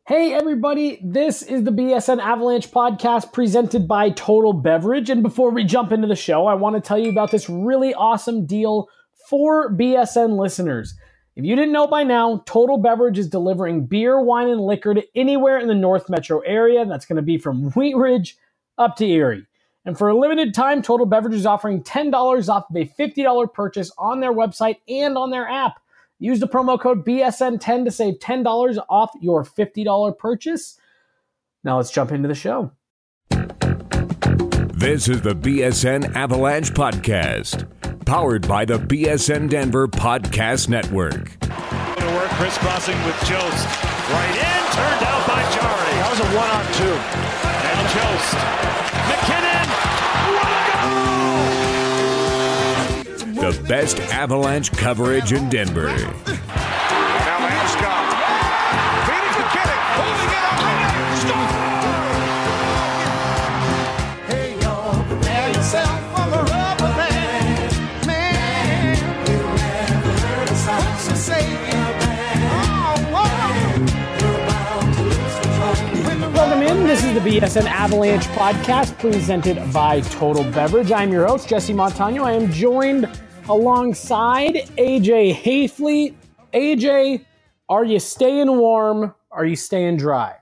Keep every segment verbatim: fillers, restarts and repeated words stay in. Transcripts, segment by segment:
Hey everybody, this is the B S N Avalanche podcast presented by Total Beverage. And before we jump into the show, I want to tell you about this really awesome deal for B S N listeners. If you didn't know by now, Total Beverage is delivering beer, wine, and liquor to anywhere in the North Metro area. That's going to be from Wheat Ridge up to Erie. And for a limited time, Total Beverage is offering ten dollars off of a fifty dollars purchase on their website and on their app. Use the promo code B S N ten to save ten dollars off your fifty dollars purchase. Now let's jump into the show. This is the B S N Avalanche Podcast, powered by the B S N Denver Podcast Network. To work, crisscrossing with Jost. Right in, turned out by Jarry. That was a one-on-two. Now Jost. McKinnon. What a goal! The best Avalanche coverage in Denver. Now Landeskog. Feeding McKinnon. Holding it up. Hey, y'all, prepare yourself for the rubber band. Man, you never heard a song so say Welcome in. This is the B S N Avalanche podcast presented by Total Beverage. I'm your host, Jesse Montano. I am joined alongside A J Hayfleet. A J, are you staying warm? Are you staying dry?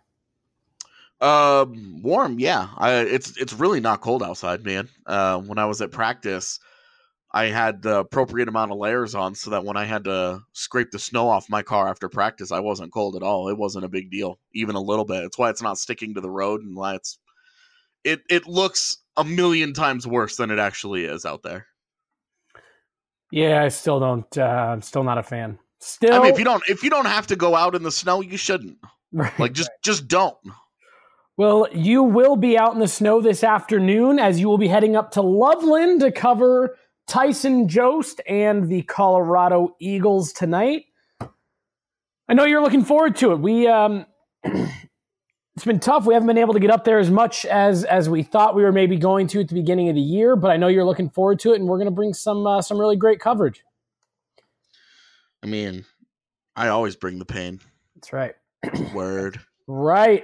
Uh, warm, yeah. I, it's it's really not cold outside, man. Uh, when I was at practice, I had the appropriate amount of layers on so that when I had to scrape the snow off my car after practice, I wasn't cold at all. It wasn't a big deal, even a little bit. It's why it's not sticking to the road and why it's it it looks a million times worse than it actually is out there. Yeah, I still don't. Uh, I'm still not a fan. Still, I mean, if you don't if you don't have to go out in the snow, you shouldn't. Right, like just right. just don't. Well, you will be out in the snow this afternoon as you will be heading up to Loveland to cover Tyson Jost and the Colorado Eagles tonight. I know you're looking forward to it. We um, it's been tough. We haven't been able to get up there as much as as we thought we were maybe going to at the beginning of the year, but I know you're looking forward to it, and we're going to bring some uh, some really great coverage. I mean, I always bring the pain. That's right. Word. Right.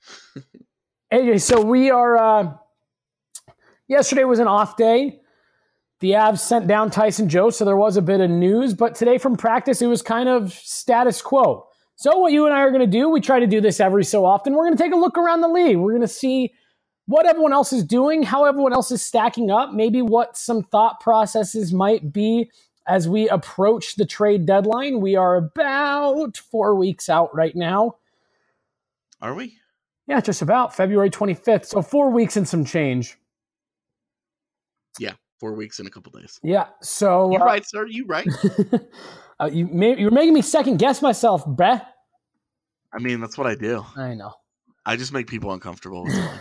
A J, so we are, uh, yesterday was an off day. The Avs sent down Tyson Jost, so there was a bit of news, but today from practice, it was kind of status quo. So what you and I are going to do, we try to do this every so often. We're going to take a look around the league. We're going to see what everyone else is doing, how everyone else is stacking up, maybe what some thought processes might be as we approach the trade deadline. We are about four weeks out right now. Are we? Yeah, just about February twenty-fifth. So four weeks and some change. Yeah, four weeks and a couple days. Yeah, so you uh, right, sir. You right. uh, you may, you're making me second guess myself, bruh. I mean, that's what I do. I know. I just make people uncomfortable.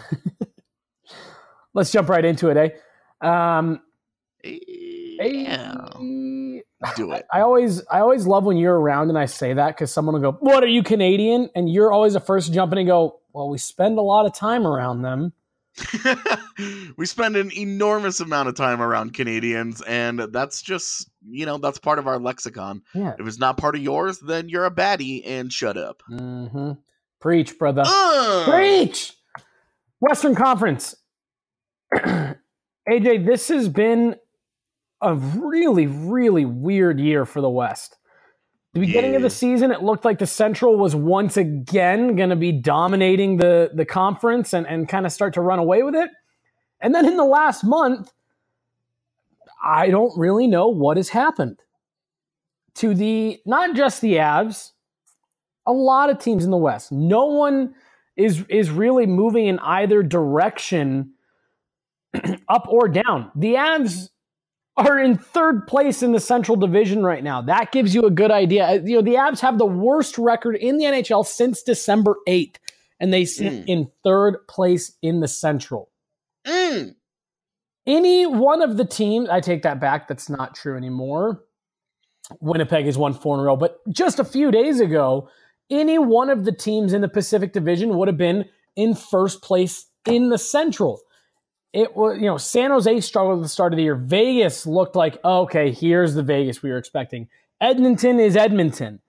Let's jump right into it, eh? Um, yeah. Do it. I always, I always love when you're around and I say that because someone will go, "What, are you Canadian?" And you're always the first to jump in and go, "Well, we spend a lot of time around them." We spend an enormous amount of time around Canadians, and that's just, you know, that's part of our lexicon. Yeah. If it's not part of yours, then you're a baddie and shut up. Mm-hmm. Preach, brother. Uh! Preach! Western Conference. A J, this has been a really, really weird year for the West. The beginning yeah. of the season, it looked like the Central was once again going to be dominating the, the conference and, and kind of start to run away with it. And then in the last month, I don't really know what has happened to the, not just the Avs, a lot of teams in the West. No one is, is really moving in either direction, up or down. The Avs are in third place in the Central Division right now. That gives you a good idea. You know, the Avs have the worst record in the N H L since December eighth, and they sit mm. in third place in the Central. Mm. Any one of the teams, I take that back, that's not true anymore. Winnipeg has won four in a row, but just a few days ago, any one of the teams in the Pacific Division would have been in first place in the Central. It was, you know, San Jose struggled at the start of the year. Vegas looked like, oh, okay, here's the Vegas we were expecting. Edmonton is Edmonton.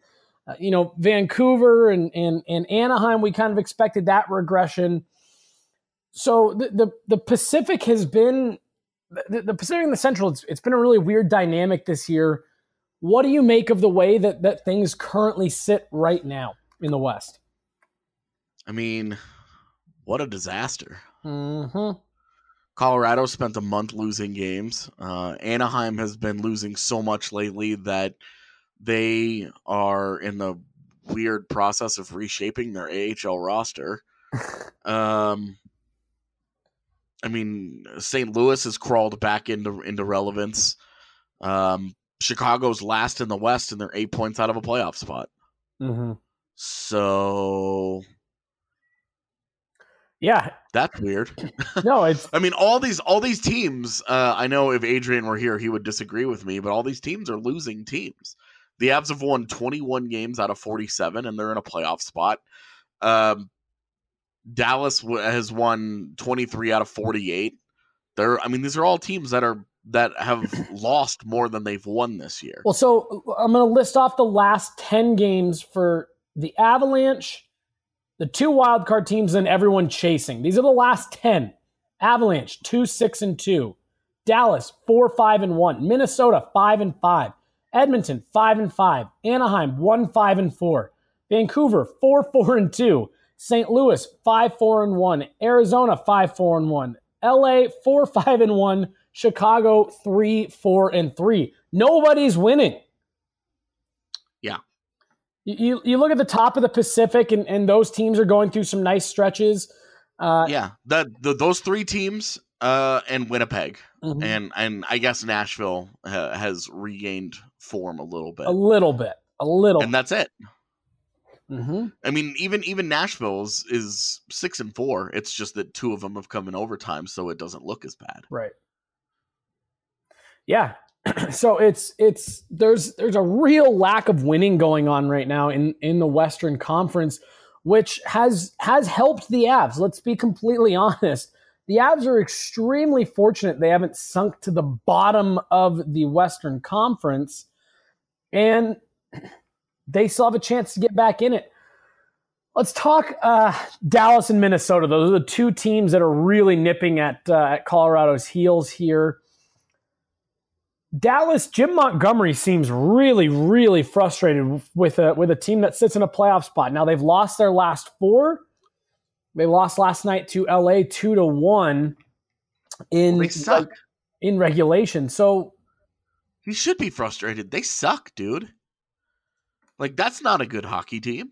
Uh, you know, Vancouver and, and, and Anaheim, we kind of expected that regression. So the, the, the Pacific has been, the, the Pacific and the Central, it's, it's been a really weird dynamic this year. What do you make of the way that, that things currently sit right now in the West? I mean, what a disaster. Mm-hmm. Colorado spent a month losing games. Uh, Anaheim has been losing so much lately that they are in the weird process of reshaping their A H L roster. Um, I mean, Saint Louis has crawled back into into relevance. Um, Chicago's last in the West, and they're eight points out of a playoff spot. Mm-hmm. So, yeah, that's weird. No, it's. I mean, all these all these teams. Uh, I know if Adrian were here, he would disagree with me, but all these teams are losing teams. The Avs have won twenty-one games out of forty-seven, and they're in a playoff spot. Um, Dallas w- has won twenty-three out of forty-eight. They're, I mean, these are all teams that are that have lost more than they've won this year. Well, so I'm going to list off the last ten games for the Avalanche, the two wildcard teams, and everyone chasing. These are the last ten. Avalanche, two, six, and two. Dallas, four, five, and one. Minnesota, five and five. Edmonton, five and five. Anaheim, one, five, and four. Vancouver, four, four, and two. Saint Louis, five, four, and one. Arizona, five, four, and one. L A, four, five, and one. Chicago, three, four, and three. Nobody's winning. Yeah. You, you look at the top of the Pacific, and, and those teams are going through some nice stretches. Uh, yeah, the, the those three teams uh, and Winnipeg, mm-hmm. and and I guess Nashville ha- has regained form a little bit, a little bit, a little, and that's it. Mm-hmm. I mean, even even Nashville's is six and four. It's just that two of them have come in overtime, so it doesn't look as bad. Right. Yeah. So it's it's there's there's a real lack of winning going on right now in, in the Western Conference, which has has helped the Avs. Let's be completely honest. The Avs are extremely fortunate they haven't sunk to the bottom of the Western Conference, and they still have a chance to get back in it. Let's talk uh, Dallas and Minnesota. Those are the two teams that are really nipping at, uh, at Colorado's heels here. Dallas, Jim Montgomery seems really, really frustrated with a, with a team that sits in a playoff spot. Now, they've lost their last four. They lost last night to L A two to one in, they suck. in regulation. So he should be frustrated. They suck, dude. Like, that's not a good hockey team.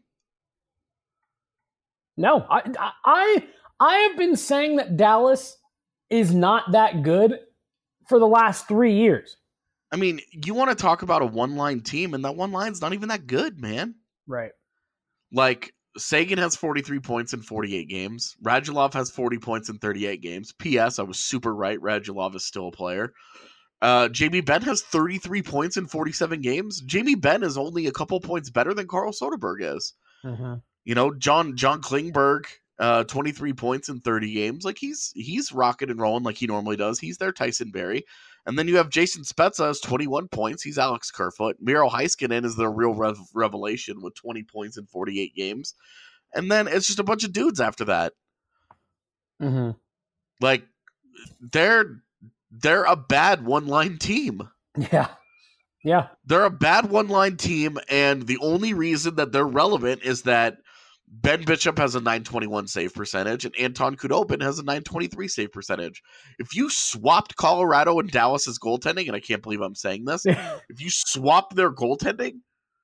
No, I, I, I have been saying that Dallas is not that good for the last three years. I mean, you want to talk about a one-line team, and that one line's not even that good, man. Right. Like, Sagan has forty-three points in forty-eight games. Radulov has forty points in thirty-eight games. P S. I was super right. Radulov is still a player. Uh, Jamie Benn has thirty-three points in forty-seven games. Jamie Benn is only a couple points better than Carl Soderberg is. Mm-hmm. You know, John John Klingberg, uh, twenty-three points in thirty games. Like, he's he's rocking and rolling like he normally does. He's their Tyson Berry. And then you have Jason Spezza has twenty-one points. He's Alex Kerfoot. Miro Heiskanen is the real rev- revelation with twenty points in forty-eight games. And then it's just a bunch of dudes after that. Mm-hmm. Like, they're they're a bad one-line team. Yeah. Yeah. They're a bad one-line team, and the only reason that they're relevant is that Ben Bishop has a nine twenty-one save percentage, and Anton Khudobin has a nine twenty-three save percentage. If you swapped Colorado and Dallas's goaltending, and I can't believe I'm saying this, if you swapped their goaltending,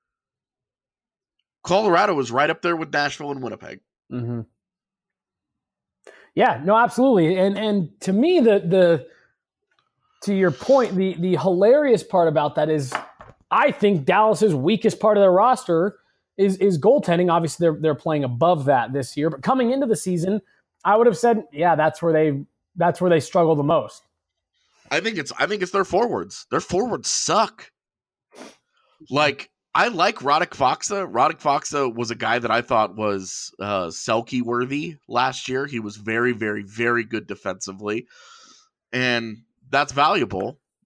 Colorado is right up there with Nashville and Winnipeg. Mm-hmm. Yeah, no, absolutely. And and to me, the the to your point, the the hilarious part about that is I think Dallas's weakest part of their roster is is goaltending. Obviously, they're they're playing above that this year, but coming into the season, I would have said, yeah, that's where they that's where they struggle the most. I think it's I think it's their forwards. Their forwards suck. Like, I like Radek Faksa. Radek Faksa was a guy that I thought was uh, Selke worthy last year. He was very, very, very good defensively, and that's valuable.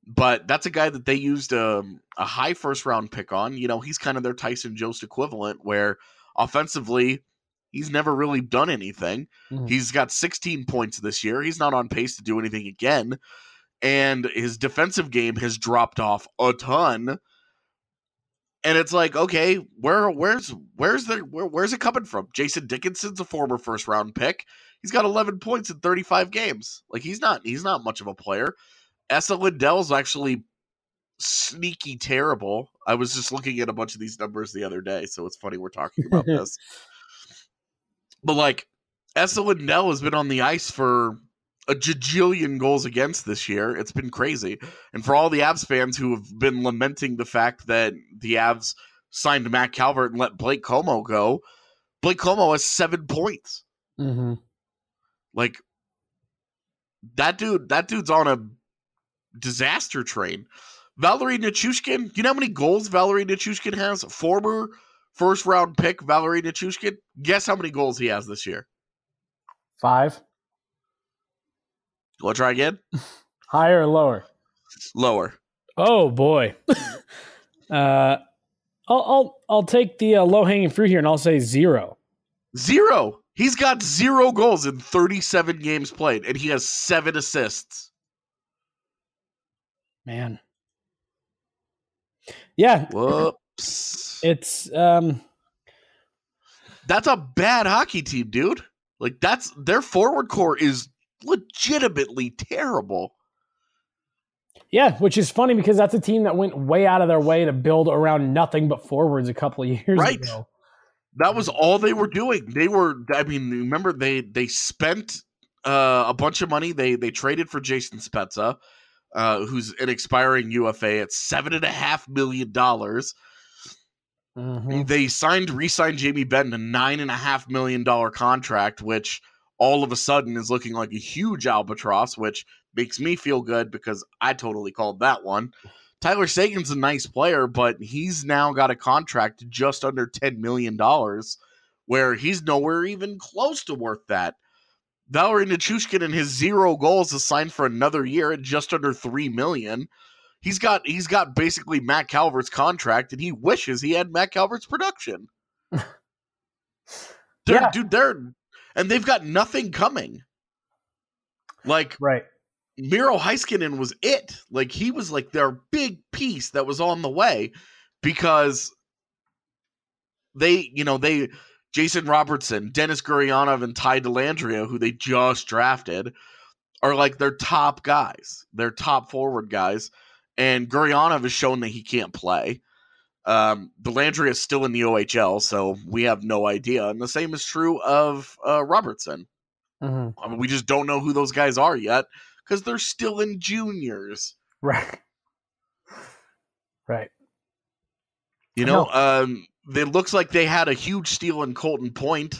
but that's a guy that they used a, a high first round pick on. You know, he's kind of their Tyson Jost equivalent, where offensively, he's never really done anything. Mm-hmm. He's got sixteen points this year. He's not on pace to do anything again. And his defensive game has dropped off a ton. And it's like, okay, where, where's, where's the, where, where's it coming from? Jason Dickinson's a former first round pick. He's got eleven points in thirty-five games. Like he's not, he's not much of a player. Esa Lindell's actually sneaky terrible. I was just looking at a bunch of these numbers the other day, so it's funny we're talking about this. But like, Esa Lindell has been on the ice for a jajillion goals against this year. It's been crazy. And for all the Avs fans who have been lamenting the fact that the Avs signed Matt Calvert and let Blake Como go, Blake Como has seven points. Mm-hmm. Like, that dude, that dude's on a disaster train. Valerie Nichushkin, you know how many goals Valerie Nichushkin has? Former first round pick Valerie Nichushkin. Guess how many goals he has this year? Five. Want to try again? Higher or lower? Lower. Oh boy. uh, I'll I'll I'll take the uh, low hanging fruit here, and I'll say zero. Zero. He's got zero goals in thirty-seven games played, and he has seven assists. Man. Yeah. Whoops. It's um. That's a bad hockey team, dude. Like that's their forward core is legitimately terrible. Yeah, which is funny because that's a team that went way out of their way to build around nothing but forwards a couple of years right. ago. That was all they were doing. They were, I mean, remember they they spent uh, a bunch of money. They they traded for Jason Spezza, uh, who's an expiring U F A at seven and a half million dollars. Mm-hmm. They signed, re-signed Jamie Benn a nine and a half million dollar contract, which all of a sudden is looking like a huge albatross, which makes me feel good because I totally called that one. Tyler Seguin's a nice player, but he's now got a contract just under ten million dollars, where he's nowhere even close to worth that. Valerie Nichushkin and his zero goals is signed for another year at just under three million dollars. He's got he's got basically Matt Calvert's contract, and he wishes he had Matt Calvert's production. they're, yeah. Dude, they're and they've got nothing coming. Like right. Miro Heiskanen was it. Like he was like their big piece that was on the way because they, you know, they Jason Robertson, Dennis Gurianov, and Ty Dellandrea, who they just drafted, are like their top guys, their top forward guys. And Gurianov has shown that he can't play. Um, Dellandrea is still in the O H L, so we have no idea. And the same is true of uh, Robertson. Mm-hmm. I mean, we just don't know who those guys are yet because they're still in juniors. Right. Right. You know, um, it looks like they had a huge steal in Colton Point,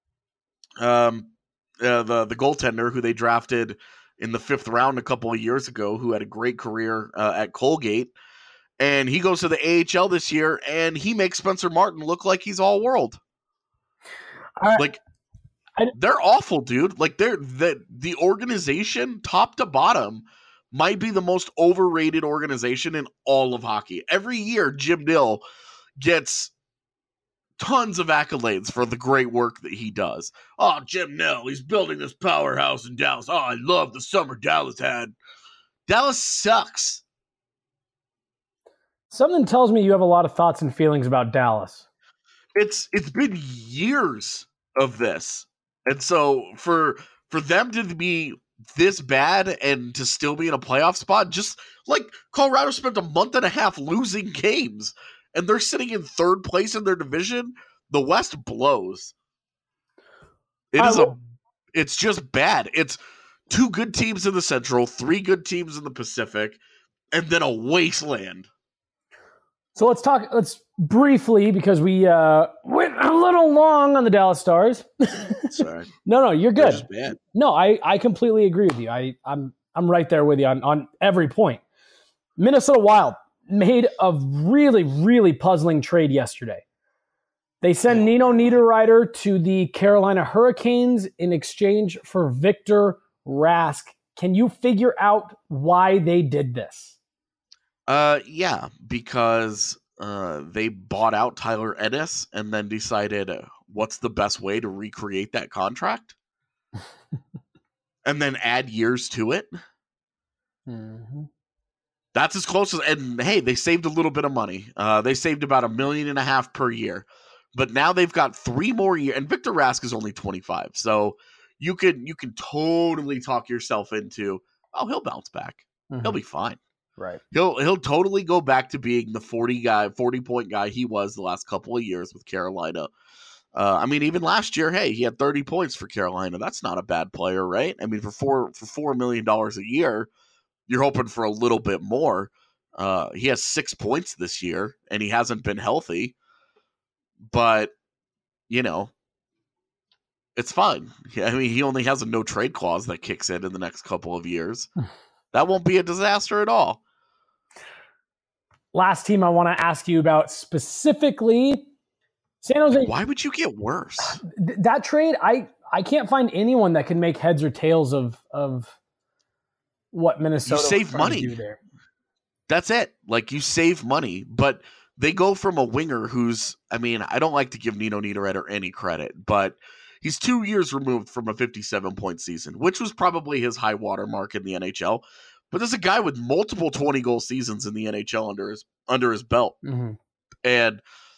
um, uh, the the goaltender who they drafted in the fifth round a couple of years ago, who had a great career uh, at Colgate. And he goes to the A H L this year, and he makes Spencer Martin look like he's all world. I, like, I, they're awful, dude. Like, they're the the organization, top to bottom, might be the most overrated organization in all of hockey. Every year, Jim Nill gets tons of accolades for the great work that he does. Oh, Jim Nill, he's building this powerhouse in Dallas. Oh, I love the summer Dallas had. Dallas sucks. Something tells me you have a lot of thoughts and feelings about Dallas. It's it's been years of this. And so for for them to be this bad and to still be in a playoff spot, just like Colorado spent a month and a half losing games and they're sitting in third place in their division, the West blows. It I is will- a it's just bad. It's two good teams in the Central, three good teams in the Pacific, and then a wasteland. So let's talk, let's briefly, because we uh, went a little long on the Dallas Stars. Sorry. no, no, you're They're good. just bad. No, I, I completely agree with you. I, I'm I'm right there with you on, on every point. Minnesota Wild made a really, really puzzling trade yesterday. They send Nino Niederreiter to the Carolina Hurricanes in exchange for Victor Rask. Can you figure out why they did this? Uh, yeah, because uh, they bought out Tyler Ennis and then decided uh, what's the best way to recreate that contract, and then add years to it. Mm-hmm. That's as close as, and hey, they saved a little bit of money. Uh, they saved about a million and a half per year, but now they've got three more years. And Victor Rask is only twenty-five, so you can you can totally talk yourself into, oh, he'll bounce back. Mm-hmm. He'll be fine. Right. He'll he'll totally go back to being the forty guy, forty point guy he was the last couple of years with Carolina. Uh, I mean, even last year, hey, he had thirty points for Carolina. That's not a bad player, right? I mean, for four for four million dollars a year, you're hoping for a little bit more. Uh, he has six points this year, and he hasn't been healthy. But you know, it's fine. I mean, he only has a no trade clause that kicks in in the next couple of years. That won't be a disaster at all. Last team I want to ask you about specifically, San Jose. Why would you get worse? Th- that trade, I I can't find anyone that can make heads or tails of of what Minnesota You save was trying to money. do there. That's it. Like, you save money, but they go from a winger who's, I mean, I don't like to give Nino Niederreiter any credit, but he's two years removed from a fifty-seven point season, which was probably his high water mark in the N H L. But there's a guy with multiple twenty goal seasons in the N H L under his under his belt. Mm-hmm. And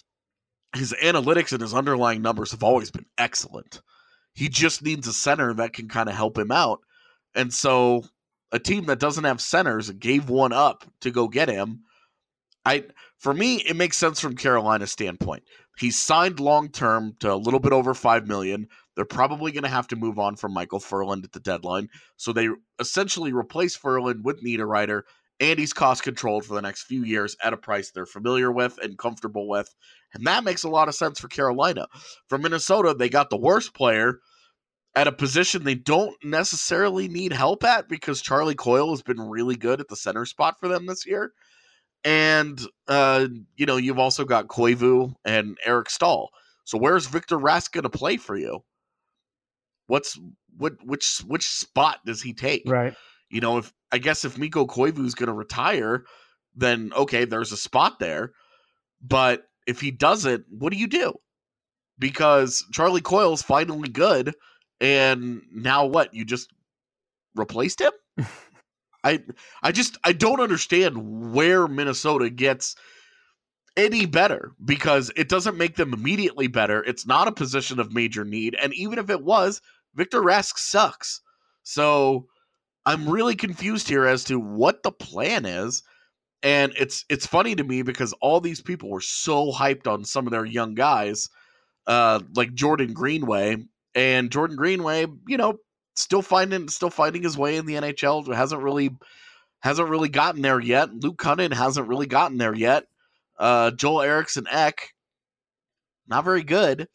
his analytics and his underlying numbers have always been excellent. He just needs a center that can kind of help him out. And so a team that doesn't have centers gave one up to go get him. I for me, it makes sense from Carolina's standpoint. He's signed long-term to a little bit over five million dollars. They're probably going to have to move on from Michael Furland at the deadline. So they essentially replace Furland with Niederreiter, and he's cost-controlled for the next few years at a price they're familiar with and comfortable with. And that makes a lot of sense for Carolina. For Minnesota, they got the worst player at a position they don't necessarily need help at because Charlie Coyle has been really good at the center spot for them this year. And, uh, you know, you've also got Koivu and Eric Stahl. So where's Victor Rask going to play for you? What's what? Which which spot does he take? Right. You know, if I guess if Mikko Koivu is going to retire, then okay, there's a spot there. But if he doesn't, what do you do? Because Charlie Coyle's finally good, and now what? You just replaced him? I I just I don't understand where Minnesota gets any better, because it doesn't make them immediately better. It's not a position of major need, and even if it was, Victor Rask sucks. So I'm really confused here as to what the plan is. And it's it's funny to me because all these people were so hyped on some of their young guys, uh, like Jordan Greenway. And Jordan Greenway, you know, still finding still finding his way in the N H L. Hasn't really hasn't really gotten there yet. Luke Cunnin hasn't really gotten there yet. Uh, Joel Eriksson Ek, not very good.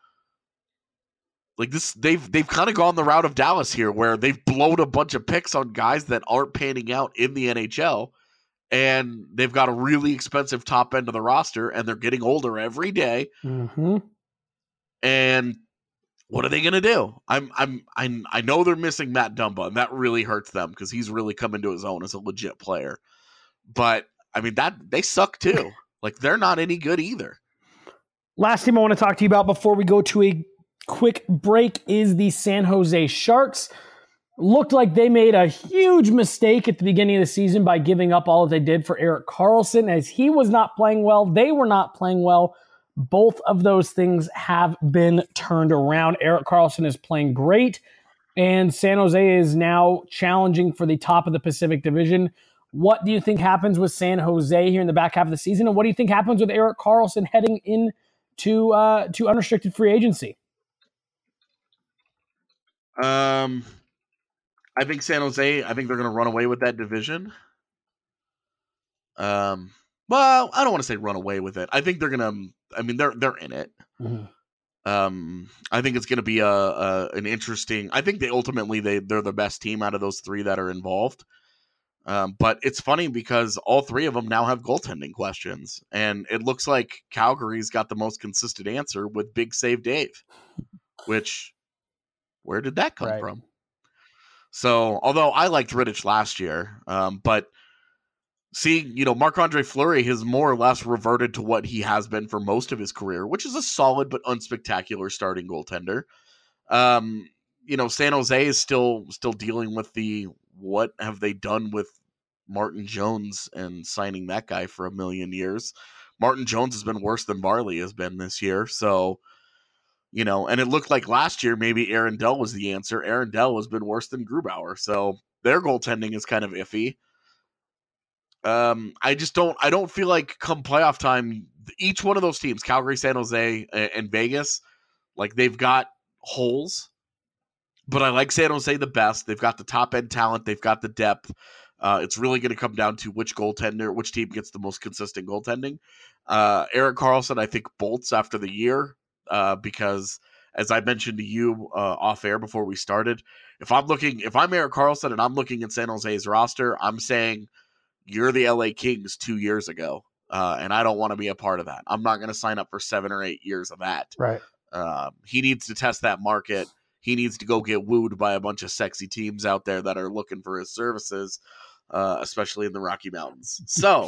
Like this, they've they've kind of gone the route of Dallas here, where they've blown a bunch of picks on guys that aren't panning out in the N H L, and they've got a really expensive top end of the roster, and they're getting older every day. Mm-hmm. And what are they going to do? I'm I'm I'm I know they're missing Matt Dumba, and that really hurts them because he's really come into his own as a legit player. But I mean, that they suck too. Like, they're not any good either. Last team I want to talk to you about before we go to a quick break is the San Jose Sharks. Looked like they made a huge mistake at the beginning of the season by giving up all that they did for Erik Karlsson, as he was not playing well. They were not playing well. Both of those things have been turned around. Erik Karlsson is playing great, and San Jose is now challenging for the top of the Pacific Division. What do you think happens with San Jose here in the back half of the season, and what do you think happens with Erik Karlsson heading into uh, to unrestricted free agency? Um, I think San Jose, I think they're going to run away with that division. Um, well, I don't want to say run away with it. I think they're going to, I mean, they're, they're in it. Mm-hmm. Um, I think it's going to be a, a, an interesting, I think they ultimately, they, they're the best team out of those three that are involved. Um, but it's funny because all three of them now have goaltending questions, and it looks like Calgary's got the most consistent answer with Big Save Dave, which, where did that come Right. from? So, although I liked Rittich last year, um, but See, you know, Marc-Andre Fleury has more or less reverted to what he has been for most of his career, which is a solid but unspectacular starting goaltender. Um, you know, San Jose is still still dealing with the what have they done with Martin Jones and signing that guy for a million years. Martin Jones has been worse than Varley has been this year. So, you know, and it looked like last year maybe Aaron Dell was the answer. Aaron Dell has been worse than Grubauer. So their goaltending is kind of iffy. Um, I just don't I don't feel like come playoff time, each one of those teams, Calgary, San Jose, and, and Vegas, like they've got holes. But I like San Jose the best. They've got the top end talent. They've got the depth. Uh, it's really going to come down to which goaltender, which team gets the most consistent goaltending. Uh, Erik Karlsson, I think, bolts after the year uh, because, as I mentioned to you uh, off air before we started, if I'm looking, if I'm Erik Karlsson and I'm looking at San Jose's roster, I'm saying you're the L A Kings two years ago, uh, and I don't want to be a part of that. I'm not going to sign up for seven or eight years of that. Right. Um, he needs to test that market. He needs to go get wooed by a bunch of sexy teams out there that are looking for his services, uh, especially in the Rocky Mountains. So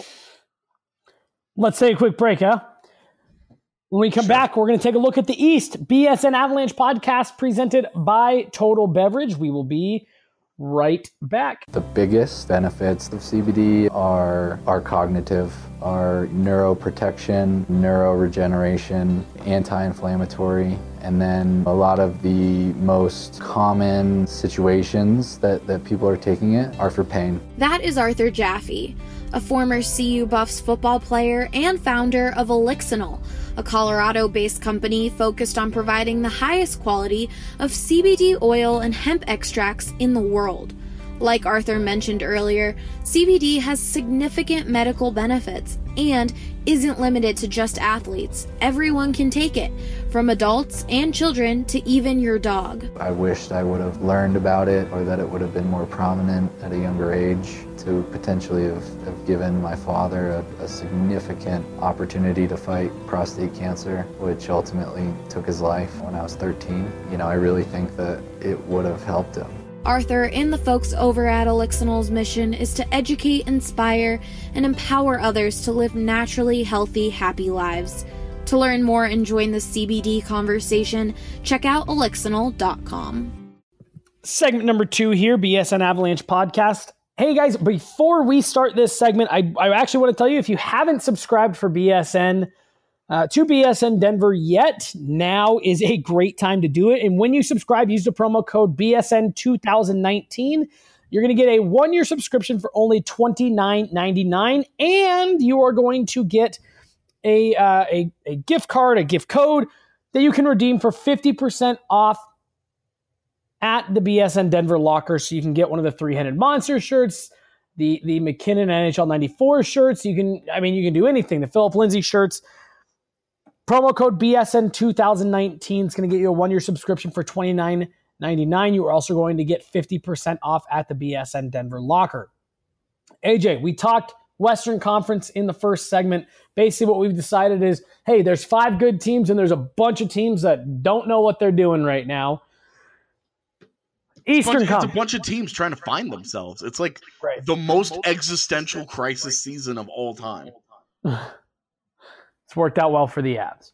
let's take a quick break, huh? When we come sure. back, we're going to take a look at the East. B S N Avalanche podcast presented by Total Beverage. We will be right back. The biggest benefits of C B D are are cognitive, are neuroprotection, neuroregeneration, anti-inflammatory, and then a lot of the most common situations that, that people are taking it are for pain. That is Arthur Jaffe, a former C U Buffs football player and founder of Elixinol, a Colorado-based company focused on providing the highest quality of C B D oil and hemp extracts in the world. Like Arthur mentioned earlier, C B D has significant medical benefits and isn't limited to just athletes. Everyone can take it, from adults and children to even your dog. I wished I would have learned about it, or that it would have been more prominent at a younger age to potentially have, have given my father a, a significant opportunity to fight prostate cancer, which ultimately took his life when I was thirteen. You know, I really think that it would have helped him. Arthur and the folks over at Elixinol's mission is to educate, inspire, and empower others to live naturally healthy, happy lives. To learn more and join the C B D conversation, check out elixinol dot com. Segment number two here, B S N Avalanche podcast. Hey guys, before we start this segment, I, I actually want to tell you, if you haven't subscribed for B S N, Uh, to B S N Denver yet, now is a great time to do it. And when you subscribe, use the promo code B S N twenty nineteen. You're going to get a one-year subscription for only twenty-nine ninety-nine, and you are going to get a, uh, a, a gift card, a gift code that you can redeem for fifty percent off at the B S N Denver locker. So you can get one of the three-headed monster shirts, the, the McKinnon N H L ninety-four shirts. You can, I mean, you can do anything. The Philip Lindsay shirts. Promo code B S N twenty nineteen is going to get you a one-year subscription for twenty-nine ninety-nine. You are also going to get fifty percent off at the B S N Denver locker. A J, we talked Western Conference in the first segment. Basically what we've decided is, hey, there's five good teams and there's a bunch of teams that don't know what they're doing right now. Eastern Conference. It's a bunch of Conference. teams trying to find themselves. It's like Right. the most existential crisis season of all time. It's worked out well for the Avs.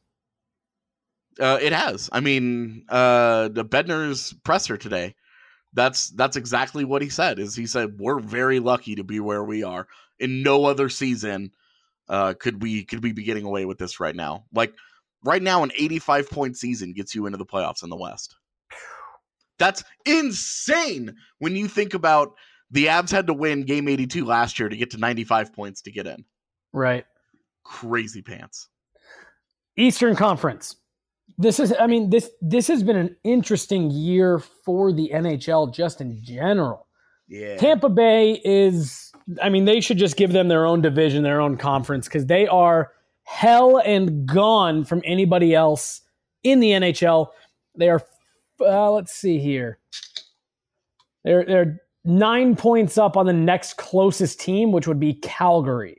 Uh, it has. I mean, uh, the Bednar's presser today, that's that's exactly what he said. Is he said we're very lucky to be where we are. In no other season uh, could we could we be getting away with this right now. Like right now, an eighty-five point season gets you into the playoffs in the West. That's insane when you think about the Avs had to win game eighty-two last year to get to ninety-five points to get in. Right. Crazy pants. Eastern Conference. This is, I mean, this this has been an interesting year for the N H L just in general. Yeah. Tampa Bay is, I mean, they should just give them their own division, their own conference, because they are hell and gone from anybody else in the N H L. They are, uh, let's see here. They're, they're nine points up on the next closest team, which would be Calgary.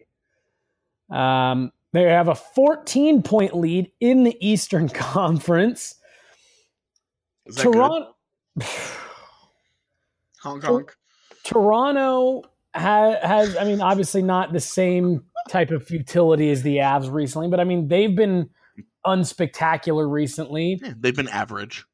Um, they have a fourteen-point lead in the Eastern Conference. Is that Toronto, good? Hong Kong. Toronto ha- has, I mean, obviously not the same type of futility as the Avs recently, but I mean, they've been unspectacular recently. Yeah, they've been average.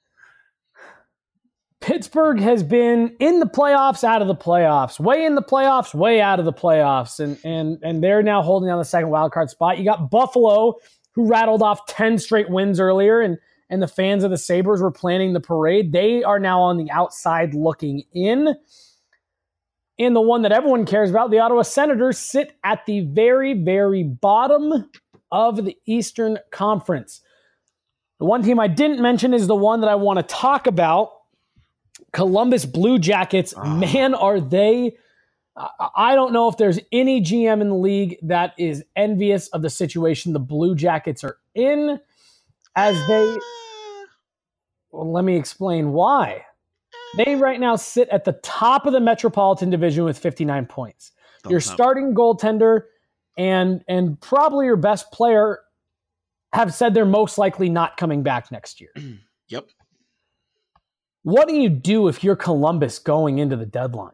Pittsburgh has been in the playoffs, out of the playoffs, way in the playoffs, way out of the playoffs, and and and they're now holding on the second wildcard spot. You got Buffalo, who rattled off ten straight wins earlier, and and the fans of the Sabres were planning the parade. They are now on the outside looking in. And the one that everyone cares about, the Ottawa Senators, sit at the very, very bottom of the Eastern Conference. The one team I didn't mention is the one that I want to talk about, Columbus Blue Jackets. Oh. Man, are they... I don't know if there's any G M in the league that is envious of the situation the Blue Jackets are in, as they... Well, let me explain why. They right now sit at the top of the Metropolitan Division with fifty-nine points. Don't your know. starting goaltender and and probably your best player have said they're most likely not coming back next year. Yep. What do you do if you're Columbus going into the deadline?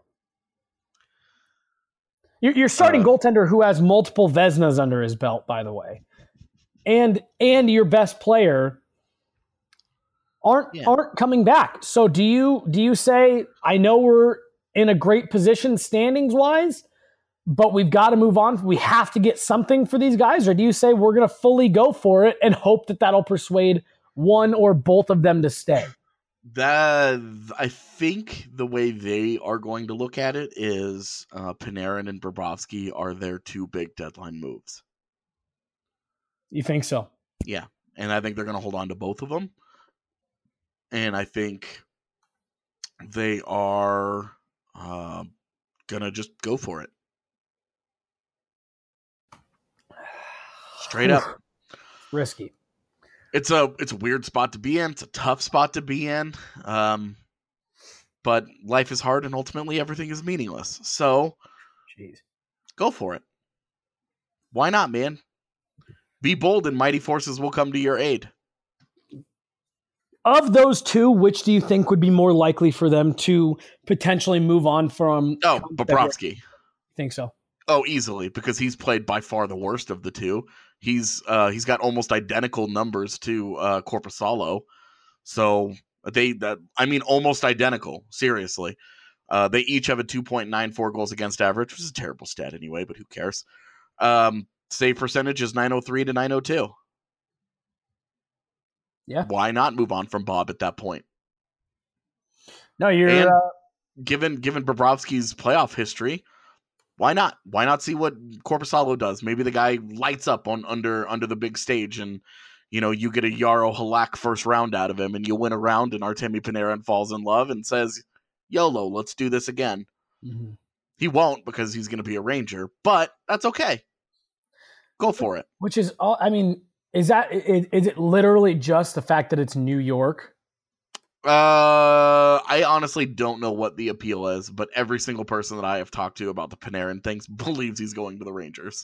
You're, you're starting uh, goaltender who has multiple Vezinas under his belt, by the way, and and your best player aren't yeah. aren't coming back. So do you do you say, I know we're in a great position standings wise, but we've got to move on. We have to get something for these guys, or do you say we're going to fully go for it and hope that that'll persuade one or both of them to stay? That I think the way they are going to look at it is uh, Panarin and Bobrovsky are their two big deadline moves. You think so? Yeah, and I think they're going to hold on to both of them. And I think they are uh, going to just go for it. Straight up. Risky. It's a it's a weird spot to be in. It's a tough spot to be in. Um, but life is hard and ultimately everything is meaningless. So Jeez. Go for it. Why not, man? Be bold and mighty forces will come to your aid. Of those two, which do you think would be more likely for them to potentially move on from? Oh, Bobrovsky. Think so? Oh, easily, because he's played by far the worst of the two. He's uh, he's got almost identical numbers to uh, Korpisalo, so they that I mean almost identical. Seriously, uh, they each have a two point nine four goals against average, which is a terrible stat anyway, but who cares? Um, save percentage is nine oh three to nine oh two. Yeah. Why not move on from Bob at that point? No, you're and uh... given given Bobrovsky's playoff history, why not? Why not see what Korpisalo does? Maybe the guy lights up on under under the big stage, and you know you get a Yarrow Halak first round out of him, and you win a round, and Artemi Panarin falls in love and says, "YOLO, let's do this again." Mm-hmm. He won't because he's going to be a Ranger, but that's okay. Go for it. Which is all. I mean. Is that is, is it literally just the fact that it's New York? Uh, I honestly don't know what the appeal is, but every single person that I have talked to about the Panarin things believes he's going to the Rangers.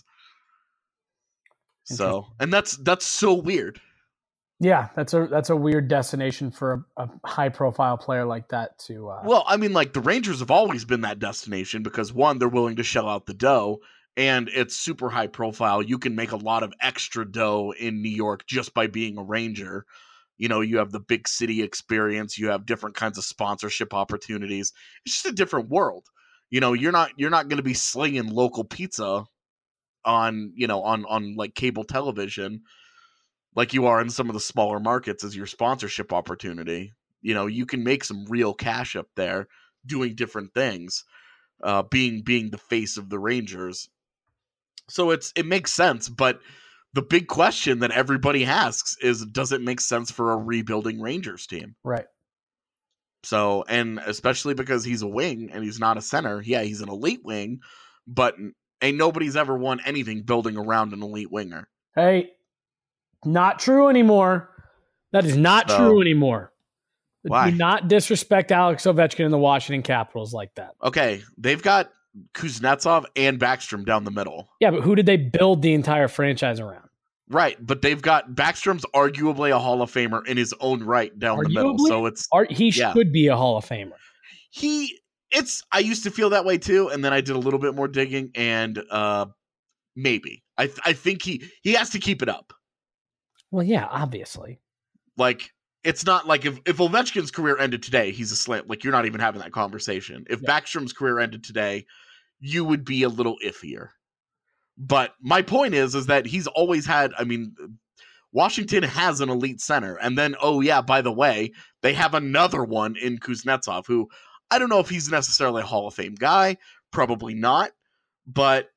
So, and that's that's so weird. Yeah, that's a that's a weird destination for a, a high profile player like that to. Uh... Well, I mean, like the Rangers have always been that destination because one, they're willing to shell out the dough. And it's super high profile. You can make a lot of extra dough in New York just by being a Ranger. You know, you have the big city experience. You have different kinds of sponsorship opportunities. It's just a different world. You know, you're not you're not going to be slinging local pizza on, you know, on on like cable television like you are in some of the smaller markets as your sponsorship opportunity. You know, you can make some real cash up there doing different things, uh, being being the face of the Rangers. So it's it makes sense, but the big question that everybody asks is, does it make sense for a rebuilding Rangers team? Right. So, and especially because he's a wing and he's not a center. Yeah, he's an elite wing, but ain't nobody's ever won anything building around an elite winger. Hey, not true anymore. That is not so, true anymore. Why? Do not disrespect Alex Ovechkin and the Washington Capitals like that. Okay, they've got Kuznetsov and Backstrom down the middle. Yeah, but who did they build the entire franchise around? Right, but they've got Backstrom's arguably a Hall of Famer in his own right down arguably? the middle. So it's Are, he yeah. should be a Hall of Famer. He it's I used to feel that way too, and then I did a little bit more digging, and uh, maybe I I think he he has to keep it up. Well, yeah, obviously. Like, it's not like if, if Ovechkin's career ended today, he's a slam. Like, you're not even having that conversation. If yeah. Backstrom's career ended today, you would be a little iffier. But my point is, is that he's always had, I mean, Washington has an elite center. And then, oh yeah, by the way, they have another one in Kuznetsov, who I don't know if he's necessarily a Hall of Fame guy. Probably not. But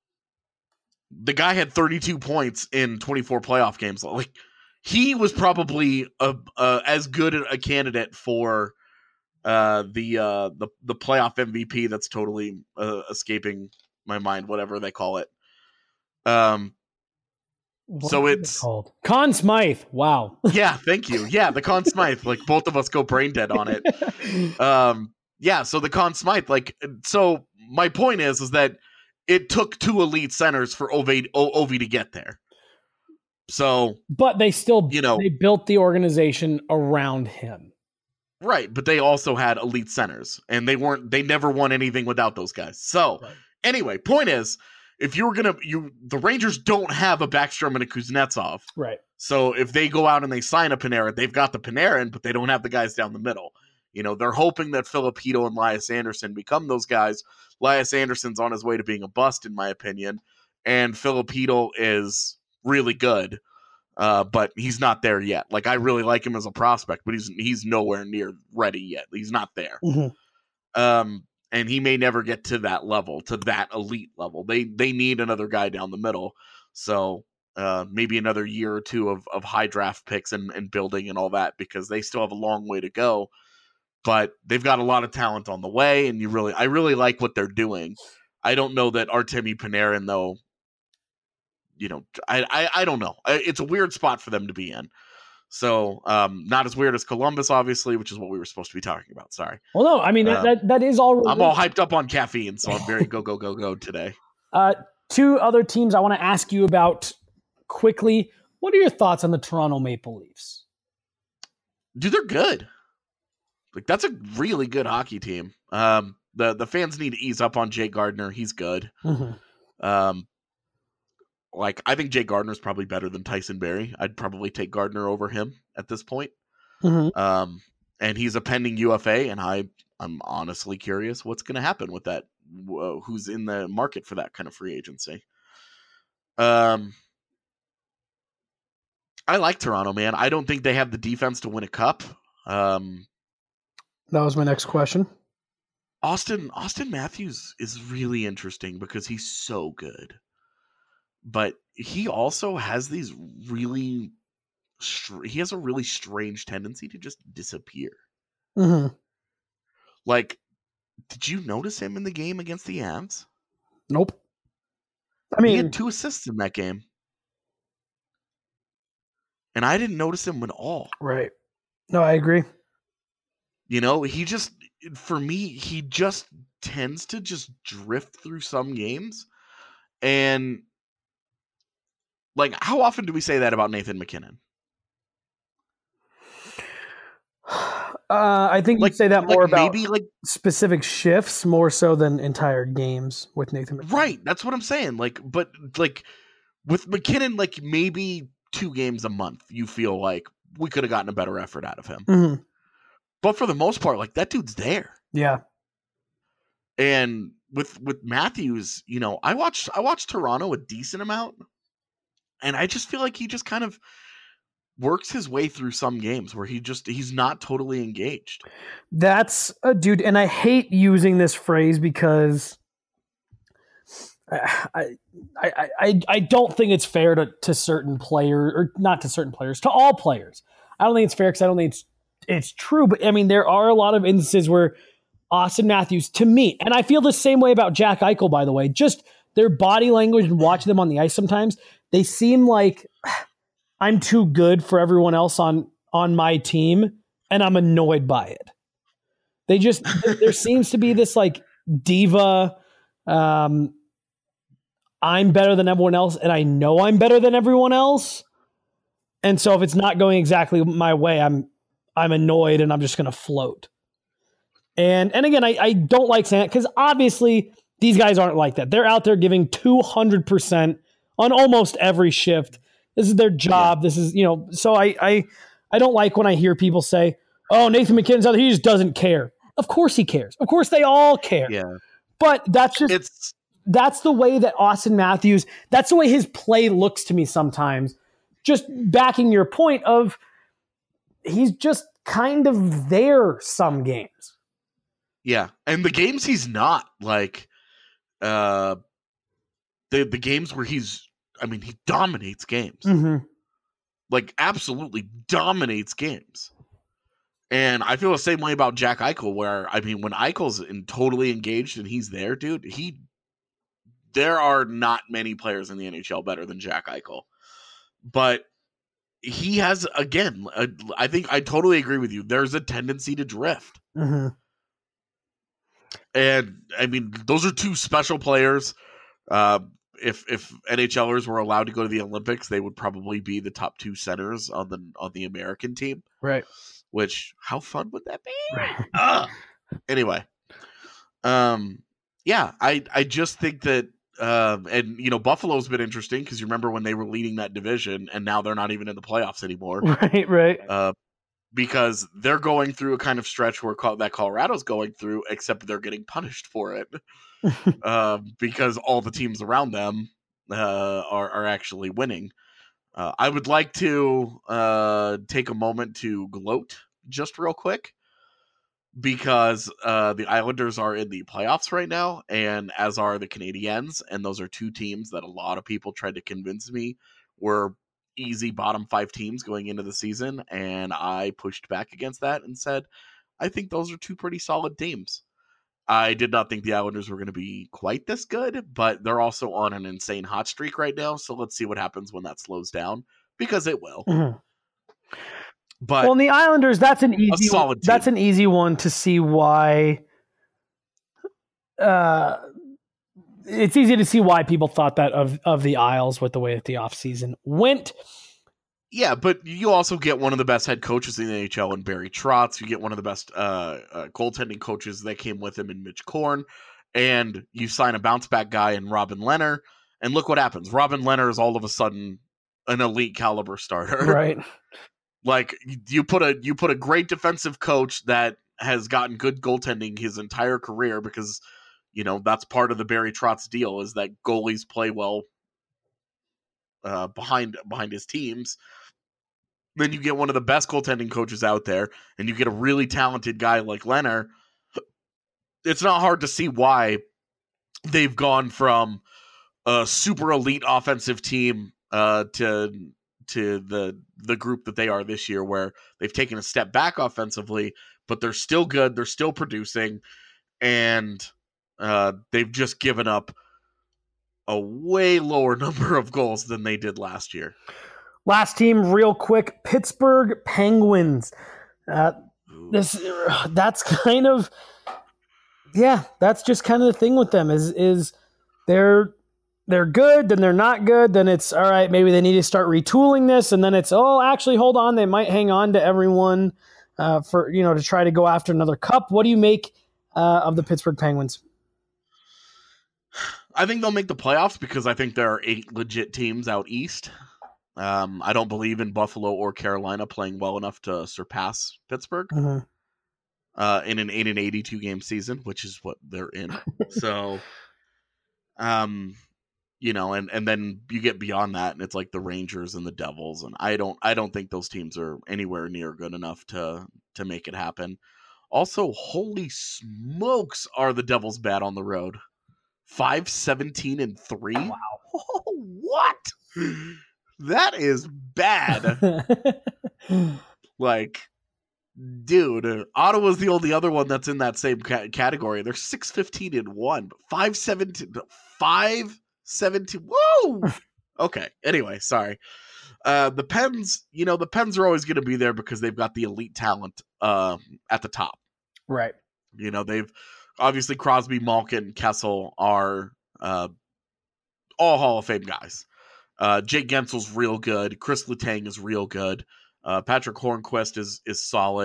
the guy had thirty-two points in twenty-four playoff games. Like, he was probably a, a, as good a candidate for uh, the, uh, the the playoff M V P. That's totally uh, escaping my mind. Whatever they call it. Um. What so it's it called Conn Smythe. Wow. Yeah. Thank you. Yeah, the Conn Smythe. Like, both of us go brain dead on it. Um. Yeah. So the Conn Smythe. Like. So my point is, is that it took two elite centers for Ovi, o- Ovi to get there. So, but they still, you know, they built the organization around him. Right. But they also had elite centers, and they weren't, they never won anything without those guys. So right. Anyway, point is, if you were going to, you, the Rangers don't have a Backstrom and a Kuznetsov. Right. So if they go out and they sign a Panarin, they've got the Panarin, but they don't have the guys down the middle. You know, they're hoping that Filipino and Elias Anderson become those guys. Elias Anderson's on his way to being a bust, in my opinion, and Filipino is really good, uh, but he's not there yet. Like, I really like him as a prospect, but he's he's nowhere near ready yet. He's not there, mm-hmm. um, and he may never get to that level, to that elite level. They they need another guy down the middle, so uh, maybe another year or two of of high draft picks and, and building and all that, because they still have a long way to go. But they've got a lot of talent on the way, and you really, I really like what they're doing. I don't know that Artemi Panarin, though, you know, I, I, I don't know. It's a weird spot for them to be in. So, um, not as weird as Columbus, obviously, which is what we were supposed to be talking about. Sorry. Well, no, I mean, uh, that, that is all. I'm all hyped up on caffeine, so I'm very go, go, go, go today. Uh, two other teams I want to ask you about quickly. What are your thoughts on the Toronto Maple Leafs? Dude, they're good. Like, that's a really good hockey team. Um, the the fans need to ease up on Jay Gardner. He's good. Mm-hmm. Um, like, I think Jay Gardner's probably better than Tyson Barrie. I'd probably take Gardner over him at this point. Mm-hmm. Um, and he's a pending U F A, and I I'm honestly curious what's going to happen with that. Uh, who's in the market for that kind of free agency? Um, I like Toronto, man. I don't think they have the defense to win a cup. Um. That was my next question. Austin Austin Matthews is really interesting because he's so good. But he also has these really str- he has a really strange tendency to just disappear. Mm-hmm. Like, did you notice him in the game against the Avs? Nope. I mean, he had two assists in that game. And I didn't notice him at all. Right. No, I agree. You know, he just, for me, he just tends to just drift through some games. And, like, how often do we say that about Nathan MacKinnon? Uh, I think like, you say that more like about maybe like specific shifts more so than entire games with Nathan MacKinnon. Right. That's what I'm saying. Like, but, like, with MacKinnon, like, maybe two games a month, you feel like we could have gotten a better effort out of him. Mm-hmm. But for the most part, like, that dude's there. Yeah. And with with Matthews, you know, I watched I watched Toronto a decent amount, and I just feel like he just kind of works his way through some games where he just he's not totally engaged. That's a dude, and I hate using this phrase because I I I I don't think it's fair to to certain players, or not to certain players, to all players. I don't think it's fair because I don't think it's It's true, but I mean, there are a lot of instances where Austin Matthews, to me, and I feel the same way about Jack Eichel, by the way, just their body language and watching them on the ice sometimes, they seem like I'm too good for everyone else on, on my team, and I'm annoyed by it. They just, there seems to be this like diva, um, I'm better than everyone else, and I know I'm better than everyone else. And so if it's not going exactly my way, I'm I'm annoyed and I'm just going to float. And and again, I, I don't like saying it because obviously these guys aren't like that. They're out there giving two hundred percent on almost every shift. This is their job. Yeah. This is, you know, so I, I I don't like when I hear people say, oh, Nathan McKinnon's out, he just doesn't care. Of course he cares. Of course they all care. Yeah. But that's just it's that's the way that Auston Matthews, that's the way his play looks to me sometimes. Just backing your point of he's just kind of there some games. Yeah, and the games he's not, like, uh, the the games where he's, I mean, he dominates games. Mm-hmm. Like, absolutely dominates games. And I feel the same way about Jack Eichel, where, I mean, when Eichel's in, totally engaged and he's there, dude, he, there are not many players in the N H L better than Jack Eichel. But he has, again, a, I think I totally agree with you. There's a tendency to drift. Mm-hmm. And I mean, those are two special players. Uh, if if NHLers were allowed to go to the Olympics, they would probably be the top two centers on the on the American team. Right. Which, how fun would that be? Right. uh, anyway, um, yeah, I I just think that, um, and you know, Buffalo's been interesting because you remember when they were leading that division, and now they're not even in the playoffs anymore. Right. Right. Uh, because they're going through a kind of stretch where that Colorado's going through, except they're getting punished for it uh, because all the teams around them uh, are, are actually winning. Uh, I would like to uh, take a moment to gloat just real quick because uh, the Islanders are in the playoffs right now, and as are the Canadiens, and those are two teams that a lot of people tried to convince me were easy bottom five teams going into the season, and I pushed back against that and said, I think those are two pretty solid teams. I did not think the Islanders were going to be quite this good, but they're also on an insane hot streak right now, so let's see what happens when that slows down, because it will. Mm-hmm. But well, in the Islanders, that's an easy solid team. That's an easy one to see why uh it's easy to see why people thought that of, of the Isles with the way that the offseason went. Yeah, but you also get one of the best head coaches in the N H L in Barry Trotz. You get one of the best uh, uh, goaltending coaches that came with him in Mitch Korn. And you sign a bounce-back guy in Robin Lehner. And look what happens. Robin Lehner is all of a sudden an elite caliber starter. Right. Like, you put a you put a great defensive coach that has gotten good goaltending his entire career because – you know, that's part of the Barry Trotz deal is that goalies play well uh, behind behind his teams. Then you get one of the best goaltending coaches out there, and you get a really talented guy like Lehner. It's not hard to see why they've gone from a super elite offensive team uh, to to the the group that they are this year, where they've taken a step back offensively, but they're still good, they're still producing, and Uh, they've just given up a way lower number of goals than they did last year. Last team, real quick, Pittsburgh Penguins. Uh, this that's kind of yeah, that's just kind of the thing with them is is they're they're good, then they're not good, then it's all right. Maybe they need to start retooling this, and then it's oh, actually, hold on, they might hang on to everyone uh, for you know to try to go after another cup. What do you make uh, of the Pittsburgh Penguins? I think they'll make the playoffs because I think there are eight legit teams out east. Um, I don't believe in Buffalo or Carolina playing well enough to surpass Pittsburgh mm-hmm. uh, in an in an eighty-two game season, which is what they're in. so, um, you know, and, and then you get beyond that, and it's like the Rangers and the Devils, and I don't I don't think those teams are anywhere near good enough to to make it happen. Also, holy smokes, are the Devils bad on the road? five seventeen and three Wow. Oh, what? That is bad. Like, dude, Ottawa's the only other one that's in that same ca- category. They're six fifteen and one, but five seventeen, five seventeen. Whoa. Okay. Anyway, sorry. Uh, the Pens, you know, the Pens are always going to be there because they've got the elite talent uh, at the top. Right. You know, they've obviously Crosby, Malkin, Kessel are uh, all Hall of Fame guys. Uh, Jake Gensel's real good. Chris Letang is real good. Uh, Patrick Hornquist is is solid.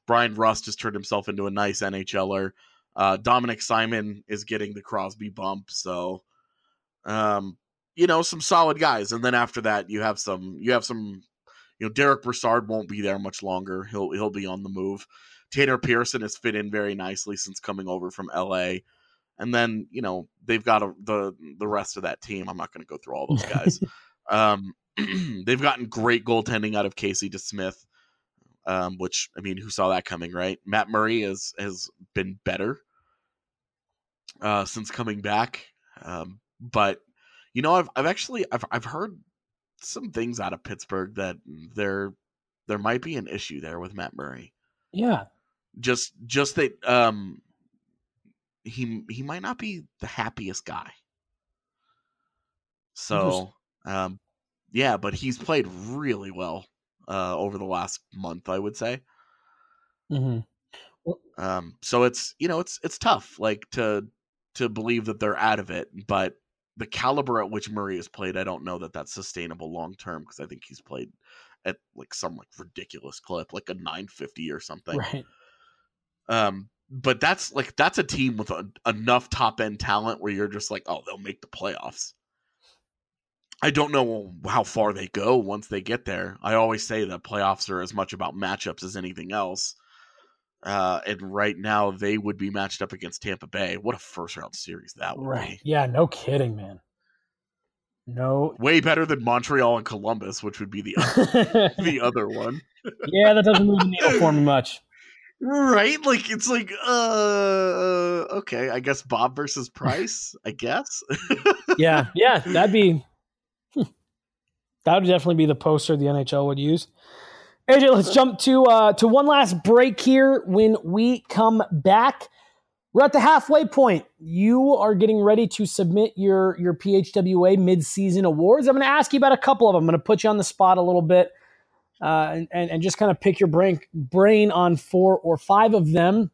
Brian Rust has turned himself into a nice NHLer. Uh, Dominic Simon is getting the Crosby bump. So, um, you know, some solid guys. And then after that, you have some, you have some, you know, Derek Brassard won't be there much longer. He'll, he'll be on the move. Tanner Pearson has fit in very nicely since coming over from L A. And then, you know, they've got a, the, the rest of that team. I'm not going to go through all those guys. um, they've gotten great goaltending out of Casey DeSmith. Um, which, I mean, who saw that coming, right? Matt Murray has, has been better uh, since coming back. Um, but, you know, I've I've actually, I've I've heard some things out of Pittsburgh that there there might be an issue there with Matt Murray. Yeah. Just just that um, he he might not be the happiest guy. So, um, yeah, but he's played really well. Uh, over the last month, I would say. Mm-hmm. Well, um, so it's, you know, it's, it's tough, like to, to believe that they're out of it, but the caliber at which Murray has played, I don't know that that's sustainable long-term. Cause I think he's played at like some like ridiculous clip, like a nine fifty or something. Right. Um, but that's like, that's a team with a, enough top end talent where you're just like, oh, they'll make the playoffs. I don't know how far they go once they get there. I always say that playoffs are as much about matchups as anything else. Uh, and right now they would be matched up against Tampa Bay. What a first round series that would right. be. Yeah, no kidding, man. No. Way better than Montreal and Columbus, which would be the other, the other one. Yeah, that doesn't move the needle for me much. Right? Like, it's like, uh, okay, I guess Bob versus Price, I guess. yeah, yeah, that'd be... That would definitely be the poster the N H L would use. A J, let's jump to uh, to one last break here. When we come back, we're at the halfway point. You are getting ready to submit your, your P H W A mid-season awards. I'm going to ask you about a couple of them. I'm going to put you on the spot a little bit uh, and, and, and just kind of pick your brain, brain on four or five of them.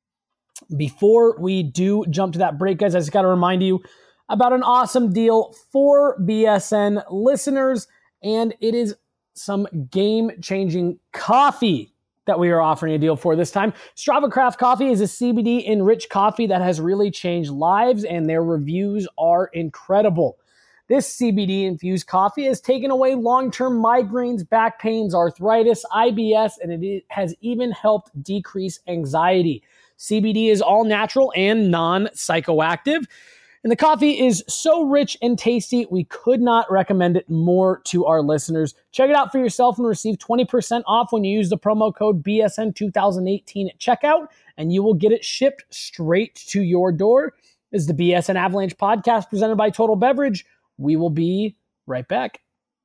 Before we do jump to that break, guys, I just got to remind you about an awesome deal for B S N listeners. And it is some game-changing coffee that we are offering a deal for this time. Strava Craft Coffee is a C B D-enriched coffee that has really changed lives, and their reviews are incredible. This C B D-infused coffee has taken away long-term migraines, back pains, arthritis, I B S, and it has even helped decrease anxiety. C B D is all natural and non-psychoactive. And the coffee is so rich and tasty, we could not recommend it more to our listeners. Check it out for yourself and receive twenty percent off when you use the promo code B S N twenty eighteen at checkout, and you will get it shipped straight to your door. This is the B S N Avalanche podcast presented by Total Beverage. We will be right back.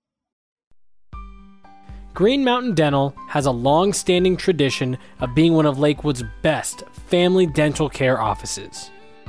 Green Mountain Dental has a long-standing tradition of being one of Lakewood's best family dental care offices.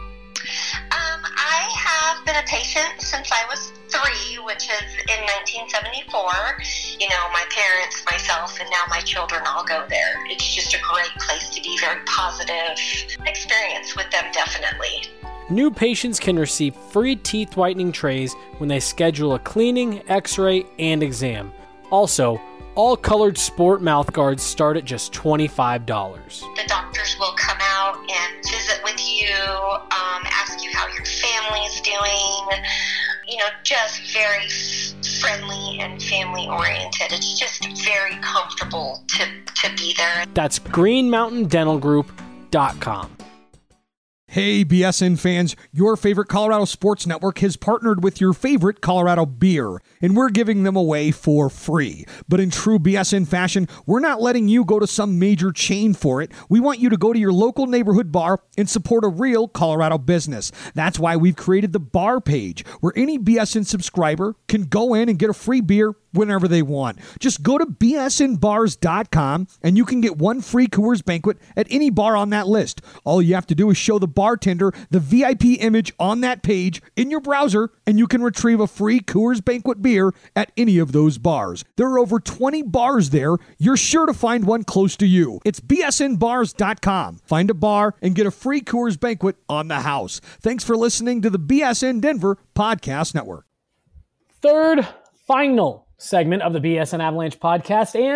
Been a patient since I was three, which is in nineteen seventy-four. You know, my parents, myself, and now my children all go there. It's just a great place to be, very positive experience with them, definitely. New patients can receive free teeth whitening trays when they schedule a cleaning, x-ray, and exam. Also, all colored sport mouth guards start at just twenty-five dollars. The doctors will come out and visit with you, um, ask you how your family's doing, you know, just very friendly and family oriented. It's just very comfortable to, to be there. That's green mountain dental group dot com. Hey, B S N fans, your favorite Colorado Sports Network has partnered with your favorite Colorado beer, and we're giving them away for free. But in true B S N fashion, we're not letting you go to some major chain for it. We want you to go to your local neighborhood bar and support a real Colorado business. That's why we've created the bar page, where any B S N subscriber can go in and get a free beer whenever they want. Just go to B S N bars dot com and you can get one free Coors Banquet at any bar on that list. All you have to do is show the bartender the V I P image on that page in your browser, and you can retrieve a free Coors Banquet beer at any of those bars. There are over twenty bars there. You're sure to find one close to you. It's B S N bars dot com. Find a bar and get a free Coors Banquet on the house. Thanks for listening to the B S N Denver Podcast Network. Third, final segment of the B S N Avalanche podcast, and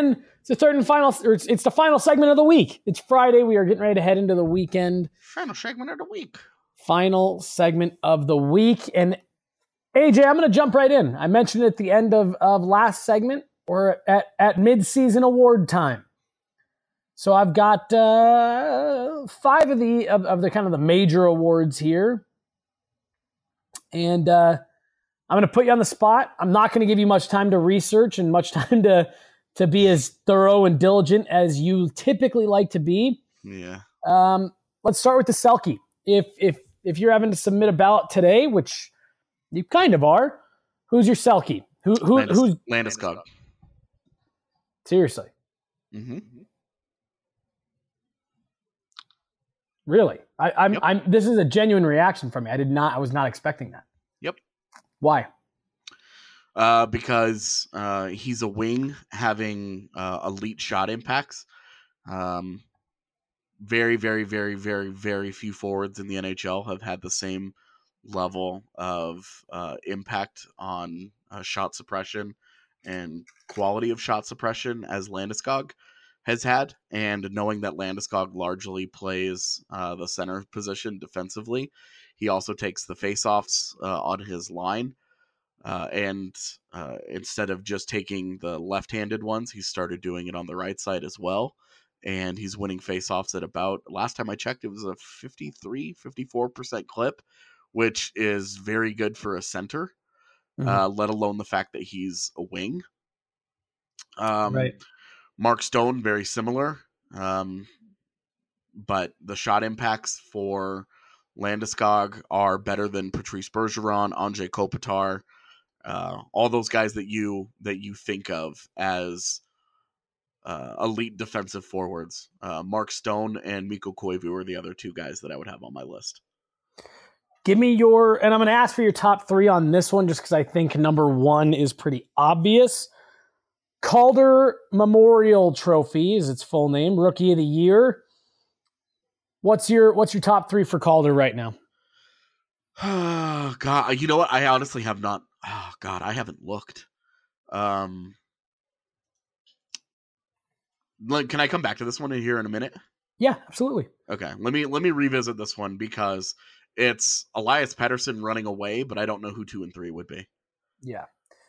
the third and final, or it's, it's the final segment of the week. It's Friday. We are getting ready to head into the weekend. Final segment of the week. Final segment of the week. And A J, I'm going to jump right in. I mentioned at the end of, of last segment, or at, at mid-season award time. So I've got uh, five of the of, of the kind of the major awards here. And uh, I'm going to put you on the spot. I'm not going to give you much time to research and much time to, to be as thorough and diligent as you typically like to be. Yeah. Um, let's start with the Selke. If if if you're having to submit a ballot today, which you kind of are, who's your Selke? Who who Landis, who's Landeskog? Seriously? Mm-hmm. Really? I, I'm Yep. I'm. This is a genuine reaction from me. I did not. I was not expecting that. Yep. Why? Uh, because uh, he's a wing having uh, elite shot impacts. Um, very, very, very, very, very few forwards in the N H L have had the same level of uh, impact on uh, shot suppression and quality of shot suppression as Landeskog has had. And knowing that Landeskog largely plays uh, the center position defensively, he also takes the faceoffs uh, on his line. Uh, and uh, instead of just taking the left-handed ones, he started doing it on the right side as well. And he's winning faceoffs at about, last time I checked, it was a fifty-three, fifty-four percent clip, which is very good for a center, mm-hmm. uh, let alone the fact that he's a wing. Um, right. Mark Stone, very similar. Um, but the shot impacts for Landeskog are better than Patrice Bergeron, Andrei Kopitar, uh, all those guys that you that you think of as uh, elite defensive forwards. Uh, Mark Stone and Mikko Koivu are the other two guys that I would have on my list. Give me your, and I'm going to ask for your top three on this one just because I think number one is pretty obvious. Calder Memorial Trophy is its full name, Rookie of the Year. What's your what's your top three for Calder right now? Oh, God, you know what? I honestly have not. Oh, God, I haven't looked. Um, can I come back to this one here in a minute? Yeah, absolutely. Okay, let me let me revisit this one because it's Elias Pettersson running away, but I don't know who two and three would be. Yeah.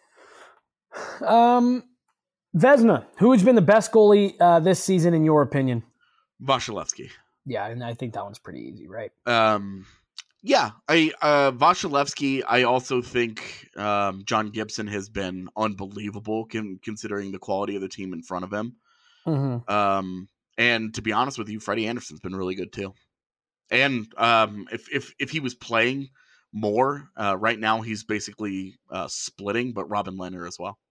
Um, Vezina, who has been the best goalie uh, this season in your opinion? Vasilevsky. Yeah, and I think that one's pretty easy, right? Um, yeah, I uh, Vasilevsky. I also think um, John Gibson has been unbelievable con- considering the quality of the team in front of him. Mm-hmm. Um, and to be honest with you, Freddie Anderson's been really good too. And um, if if if he was playing more uh, right now, he's basically uh, splitting, but Robin Lehner as well.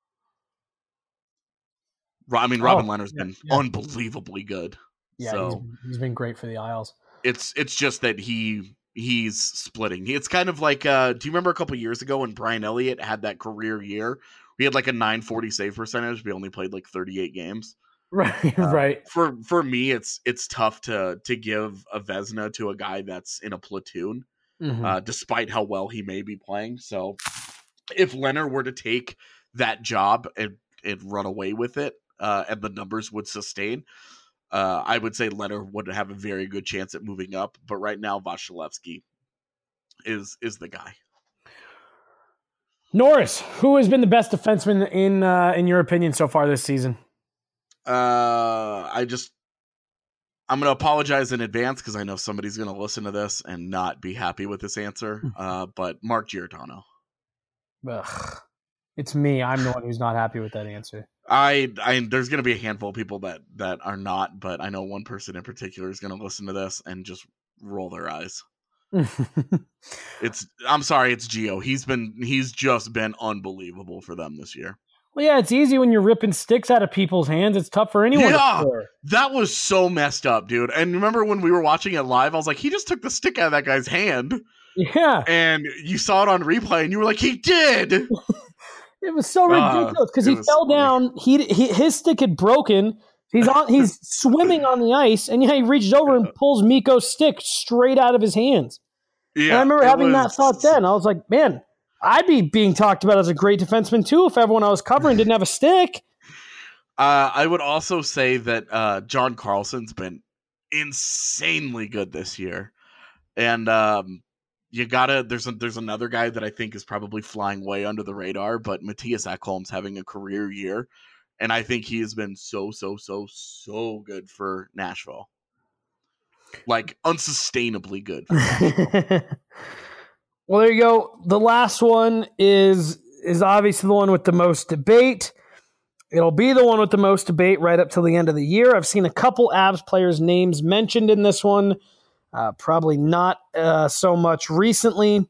I mean, Robin oh, Lehner's yeah, been yeah. unbelievably good. Yeah, so he's, he's been great for the Isles. It's it's just that he he's splitting. It's kind of like uh, do you remember a couple years ago when Brian Elliott had that career year? He had like a nine forty save percentage, but he only played like thirty-eight games. Right, Uh, right. For for me, it's it's tough to to give a Vezina to a guy that's in a platoon, Mhm. uh, despite how well he may be playing. So, if Lehner were to take that job and and run away with it, uh, and the numbers would sustain, uh, I would say Lehner would have a very good chance at moving up. But right now, Vasilevsky is is the guy. Norris, who has been the best defenseman in uh, in your opinion so far this season? Uh, I just, I'm going to apologize in advance because I know somebody's going to listen to this and not be happy with this answer. Uh, but Mark Giordano. Ugh. It's me. I'm the one who's not happy with that answer. I, I, there's going to be a handful of people that, that are not, but I know one person in particular is going to listen to this and just roll their eyes. It's, I'm sorry, it's Gio. He's been, he's just been unbelievable for them this year. Well, yeah, it's easy when you're ripping sticks out of people's hands. It's tough for anyone Yeah, to score. that was so messed up, dude. And remember when we were watching it live, I was like, he just took the stick out of that guy's hand. Yeah. And you saw it on replay, and you were like, he did. It was so ridiculous because uh, he fell funny. down. He, he his stick had broken. He's on. He's swimming on the ice, and yeah, he reaches over and pulls Mikko's stick straight out of his hands. Yeah, and I remember it having was... that thought then. I was like, man, I'd be being talked about as a great defenseman too if everyone I was covering didn't have a stick. Uh, I would also say that uh, John Carlson's been insanely good this year, and um, you gotta. There's a, there's another guy that I think is probably flying way under the radar, but Matthias Ekholm's having a career year, and I think he has been so so so so good for Nashville, like unsustainably good. For Nashville. Well, there you go. The last one is is obviously the one with the most debate. It'll be the one with the most debate right up till the end of the year. I've seen a couple Avs players' names mentioned in this one. Uh, probably not uh, so much recently.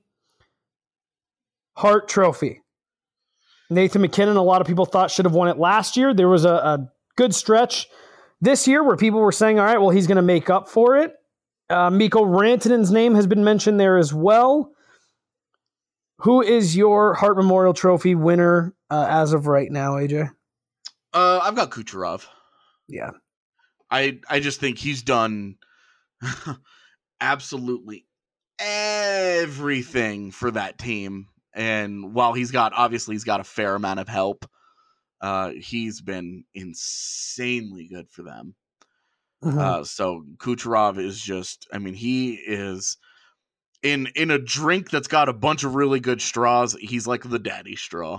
Hart Trophy. Nathan MacKinnon, a lot of people thought should have won it last year. There was a, a good stretch this year where people were saying, all right, well, he's going to make up for it. Uh, Mikko Rantanen's name has been mentioned there as well. Who is your Hart Memorial Trophy winner uh, as of right now, A J? Uh, I've got Kucherov. Yeah. I I just think he's done absolutely everything for that team. And while he's got, obviously he's got a fair amount of help, uh, he's been insanely good for them. Mm-hmm. Uh, so Kucherov is just, I mean, he is in, in a drink that's got a bunch of really good straws. He's like the daddy straw.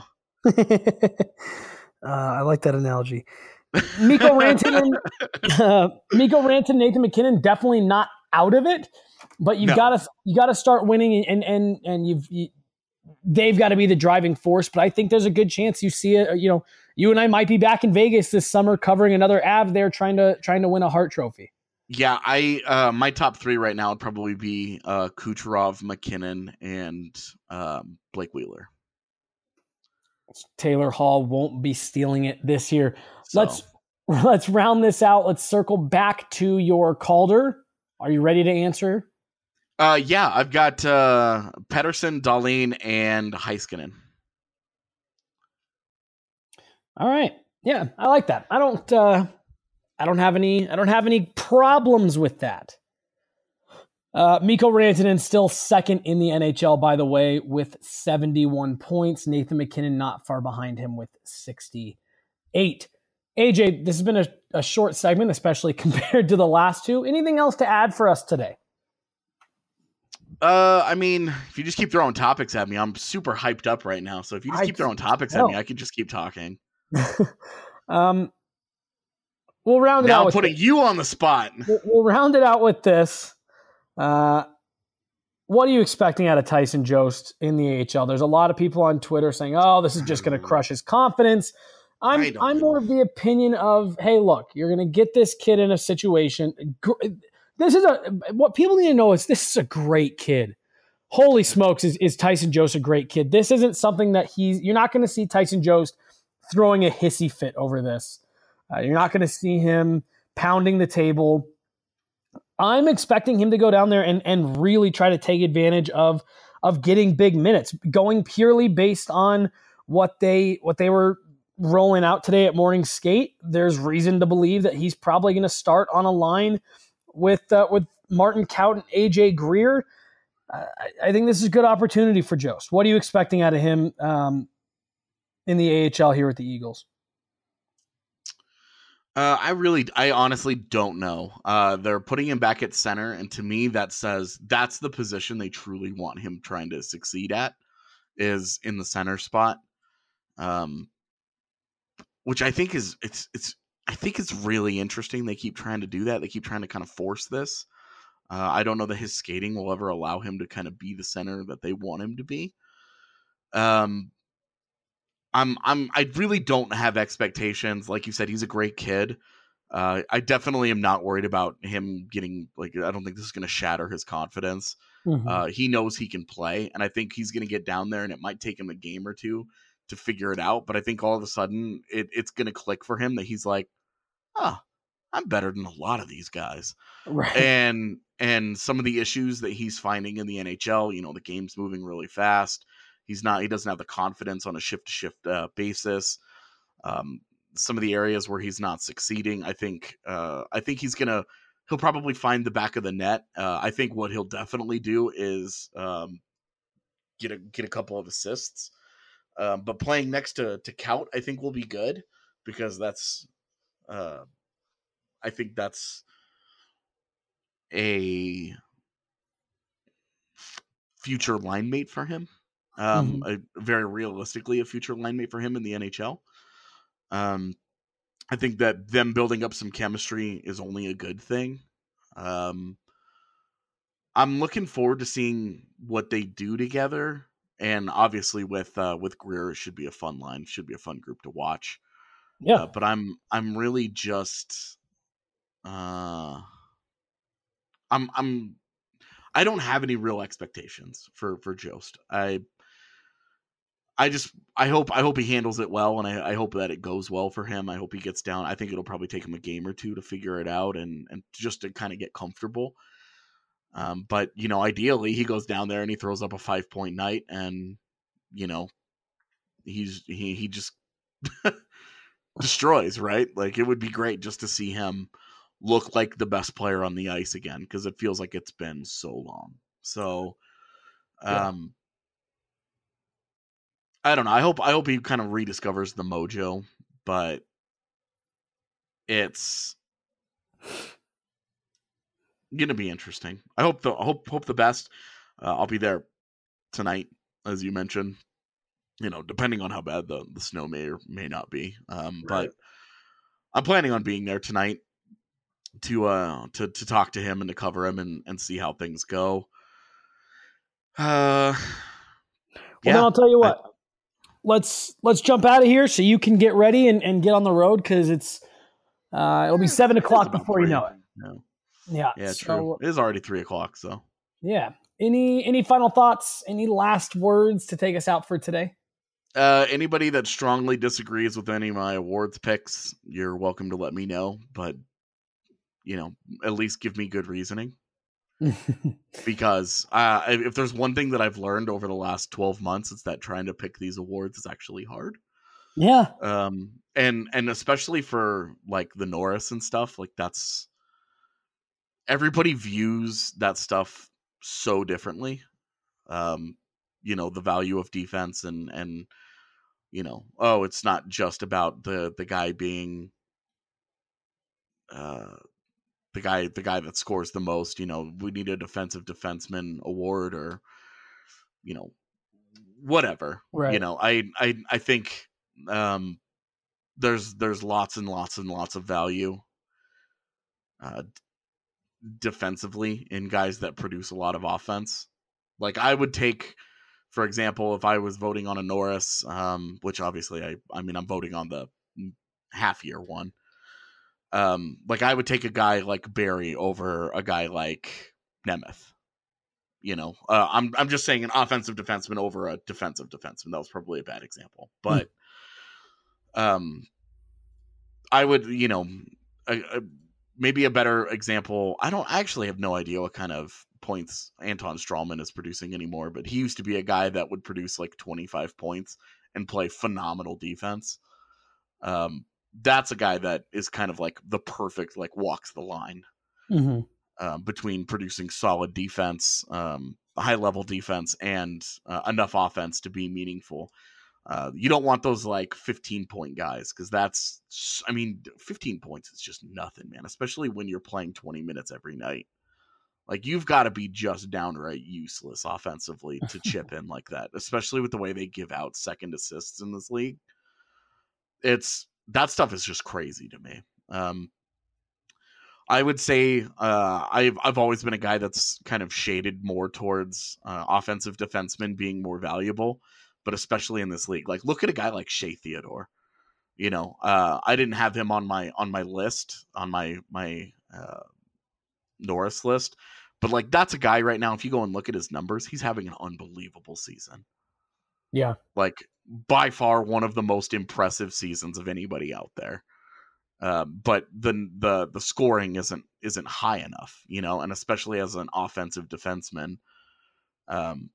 Uh, I like that analogy. Mikko Rantanen, uh, Mikko Rantanen, Nathan MacKinnon, definitely not out of it, but you've no. got to you got to start winning, and and and you've you, they've got to be the driving force. But I think there's a good chance you see it. You know, you and I might be back in Vegas this summer covering another Av there, trying to trying to win a Hart Trophy. Yeah, I uh, my top three right now would probably be uh, Kucherov, MacKinnon, and um, Blake Wheeler. Taylor Hall won't be stealing it this year. So. Let's let's round this out. Let's circle back to your Calder. Are you ready to answer? Uh, yeah, I've got uh, Pettersson, Dahlin, and Heiskanen. All right. Yeah, I like that. I don't. Uh, I don't have any. I don't have any problems with that. Uh, Mikko Rantanen still second in the N H L, by the way, with seventy-one points. Nathan MacKinnon not far behind him with sixty-eight. A J, this has been a, a short segment, especially compared to the last two. Anything else to add for us today? Uh, I mean, if you just keep throwing topics at me, I'm super hyped up right now. So if you just I keep throwing topics know. at me, I can just keep talking. um, we'll round it now out. Now putting this. you on the spot. We'll, we'll round it out with this. Uh, what are you expecting out of Tyson Jost in the A H L? There's a lot of people on Twitter saying, "Oh, this is just going to crush his confidence." I'm I'm more of the opinion of, hey, look, you're going to get this kid in a situation. This is a what people need to know is this is a great kid. Holy smokes, is, is Tyson Jost a great kid? This isn't something that he's. You're not going to see Tyson Jost throwing a hissy fit over this. Uh, you're not going to see him pounding the table. I'm expecting him to go down there and, and really try to take advantage of, of getting big minutes, going purely based on what they what they were rolling out today at morning skate. There's reason to believe that he's probably going to start on a line with uh, with Martin Kaut and A J Greer. Uh, I, I think this is a good opportunity for Jost. What are you expecting out of him um, in the A H L here with the Eagles? Uh, I really, I honestly don't know. Uh, they're putting him back at center, and to me, that says that's the position they truly want him trying to succeed at, is in the center spot. Um, which I think is it's it's I think it's really interesting. They keep trying to do that. They keep trying to kind of force this. Uh, I don't know that his skating will ever allow him to kind of be the center that they want him to be. Um. I'm I'm I really don't have expectations. Like you said, he's a great kid. Uh, I definitely am not worried about him getting like. I don't think this is going to shatter his confidence. Mm-hmm. Uh, he knows he can play, and I think he's going to get down there, and it might take him a game or two to figure it out. But I think all of a sudden it, it's going to click for him that he's like, "Oh, I'm better than a lot of these guys." Right. And and some of the issues that he's finding in the N H L, you know, the game's moving really fast. He's not. He doesn't have the confidence on a shift-to-shift uh, basis. Um, some of the areas where he's not succeeding, I think. Uh, I think he's gonna. He'll probably find the back of the net. Uh, I think what he'll definitely do is um, get a get a couple of assists. Um, but playing next to to Kaut, I think will be good because that's Uh, I think that's a future line mate for him. Um, Mhm. a, very realistically, a future line mate for him in the N H L. Um, I think that them building up some chemistry is only a good thing. Um, I'm looking forward to seeing what they do together, and obviously with uh, with Greer, it should be a fun line. Should be a fun group to watch. Yeah. Uh, but I'm I'm really just uh, I'm I'm I don't have any real expectations for for Jost. I I just I hope I hope he handles it well, and I, I hope that it goes well for him. I hope he gets down. I think it'll probably take him a game or two to figure it out and and just to kind of get comfortable. Um, but you know, ideally, he goes down there and he throws up a five point night, and you know, he's he he just destroys, right? Like, it would be great just to see him look like the best player on the ice again, because it feels like it's been so long. So, um, I don't know. I hope I hope he kind of rediscovers the mojo, but it's gonna be interesting. I hope the I hope hope the best. Uh, I'll be there tonight, as you mentioned. You know, depending on how bad the, the snow may or may not be. Um, Right. but I'm planning on being there tonight to uh to to talk to him and to cover him and, and see how things go. Uh, Well, yeah, then I'll tell you I- what. let's let's jump out of here so you can get ready and, and get on the road because it's uh, it'll be Eh, seven it is o'clock about before you three. know it. No. Yeah. Yeah, so, true. It is already three o'clock, so. Yeah. Any any final thoughts? Any last words to take us out for today? Uh, anybody that strongly disagrees with any of my awards picks, you're welcome to let me know. But, you know, at least give me good reasoning. Because uh, if there's one thing that I've learned over the last twelve months, it's that trying to pick these awards is actually hard. Yeah. Um, and and especially for like the Norris and stuff, like that's everybody views that stuff so differently. Um, you know, the value of defense and and you know, oh, it's not just about the the guy being uh the guy the guy that scores the most. You know, we need a defensive defenseman award or you know whatever. Right. You know, I I I think um there's there's lots and lots and lots of value uh defensively in guys that produce a lot of offense. Like I would take, for example, if I was voting on a Norris, um, which obviously I, I mean, I'm voting on the half year one. Um, like I would take a guy like Barry over a guy like Nemeth. You know, uh, I'm I'm just saying an offensive defenseman over a defensive defenseman. That was probably a bad example, but um, I would, you know, a, a, maybe a better example. I don't I actually have no idea what kind of points Anton Strawman is producing anymore, but he used to be a guy that would produce like twenty-five points and play phenomenal defense. Um, that's a guy that is kind of like the perfect, like walks the line Mm-hmm. um, between producing solid defense, um, high level defense, and uh, enough offense to be meaningful. Uh, you don't want those like fifteen point guys because that's, I mean, fifteen points is just nothing, man, especially when you're playing twenty minutes every night. Like, you've got to be just downright useless offensively to chip in like that, especially with the way they give out second assists in this league. It's that stuff is just crazy to me. Um, I would say uh, I've I've always been a guy that's kind of shaded more towards uh, offensive defensemen being more valuable, but especially in this league. Like, look at a guy like Shea Theodore. You know, uh, I didn't have him on my on my list on my my uh, Norris list, but like that's a guy right now. If you go and look at his numbers, he's having an unbelievable season. Yeah. Like by far one of the most impressive seasons of anybody out there. Uh, but the the the scoring isn't isn't high enough, you know, and especially as an offensive defenseman, um,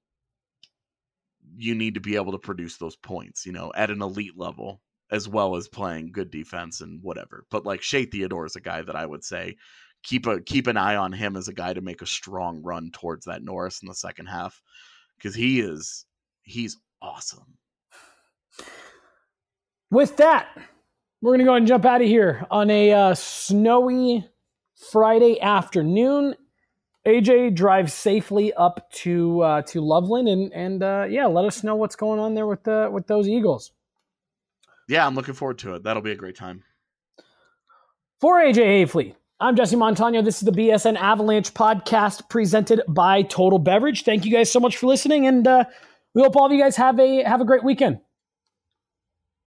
you need to be able to produce those points, you know, at an elite level, as well as playing good defense and whatever. But like Shea Theodore is a guy that I would say keep a keep an eye on him as a guy to make a strong run towards that Norris in the second half, because he is he's awesome. With that, We're going to go ahead and jump out of here on a uh, snowy Friday afternoon. A J drives safely up to uh, to Loveland, and and uh, yeah, let us know what's going on there with the with those Eagles. Yeah, I'm looking forward to it. That'll be a great time. For A J Hafley, I'm Jesse Montano. This is the B S N Avalanche podcast presented by Total Beverage. Thank you guys so much for listening, and uh, we hope all of you guys have a have a great weekend.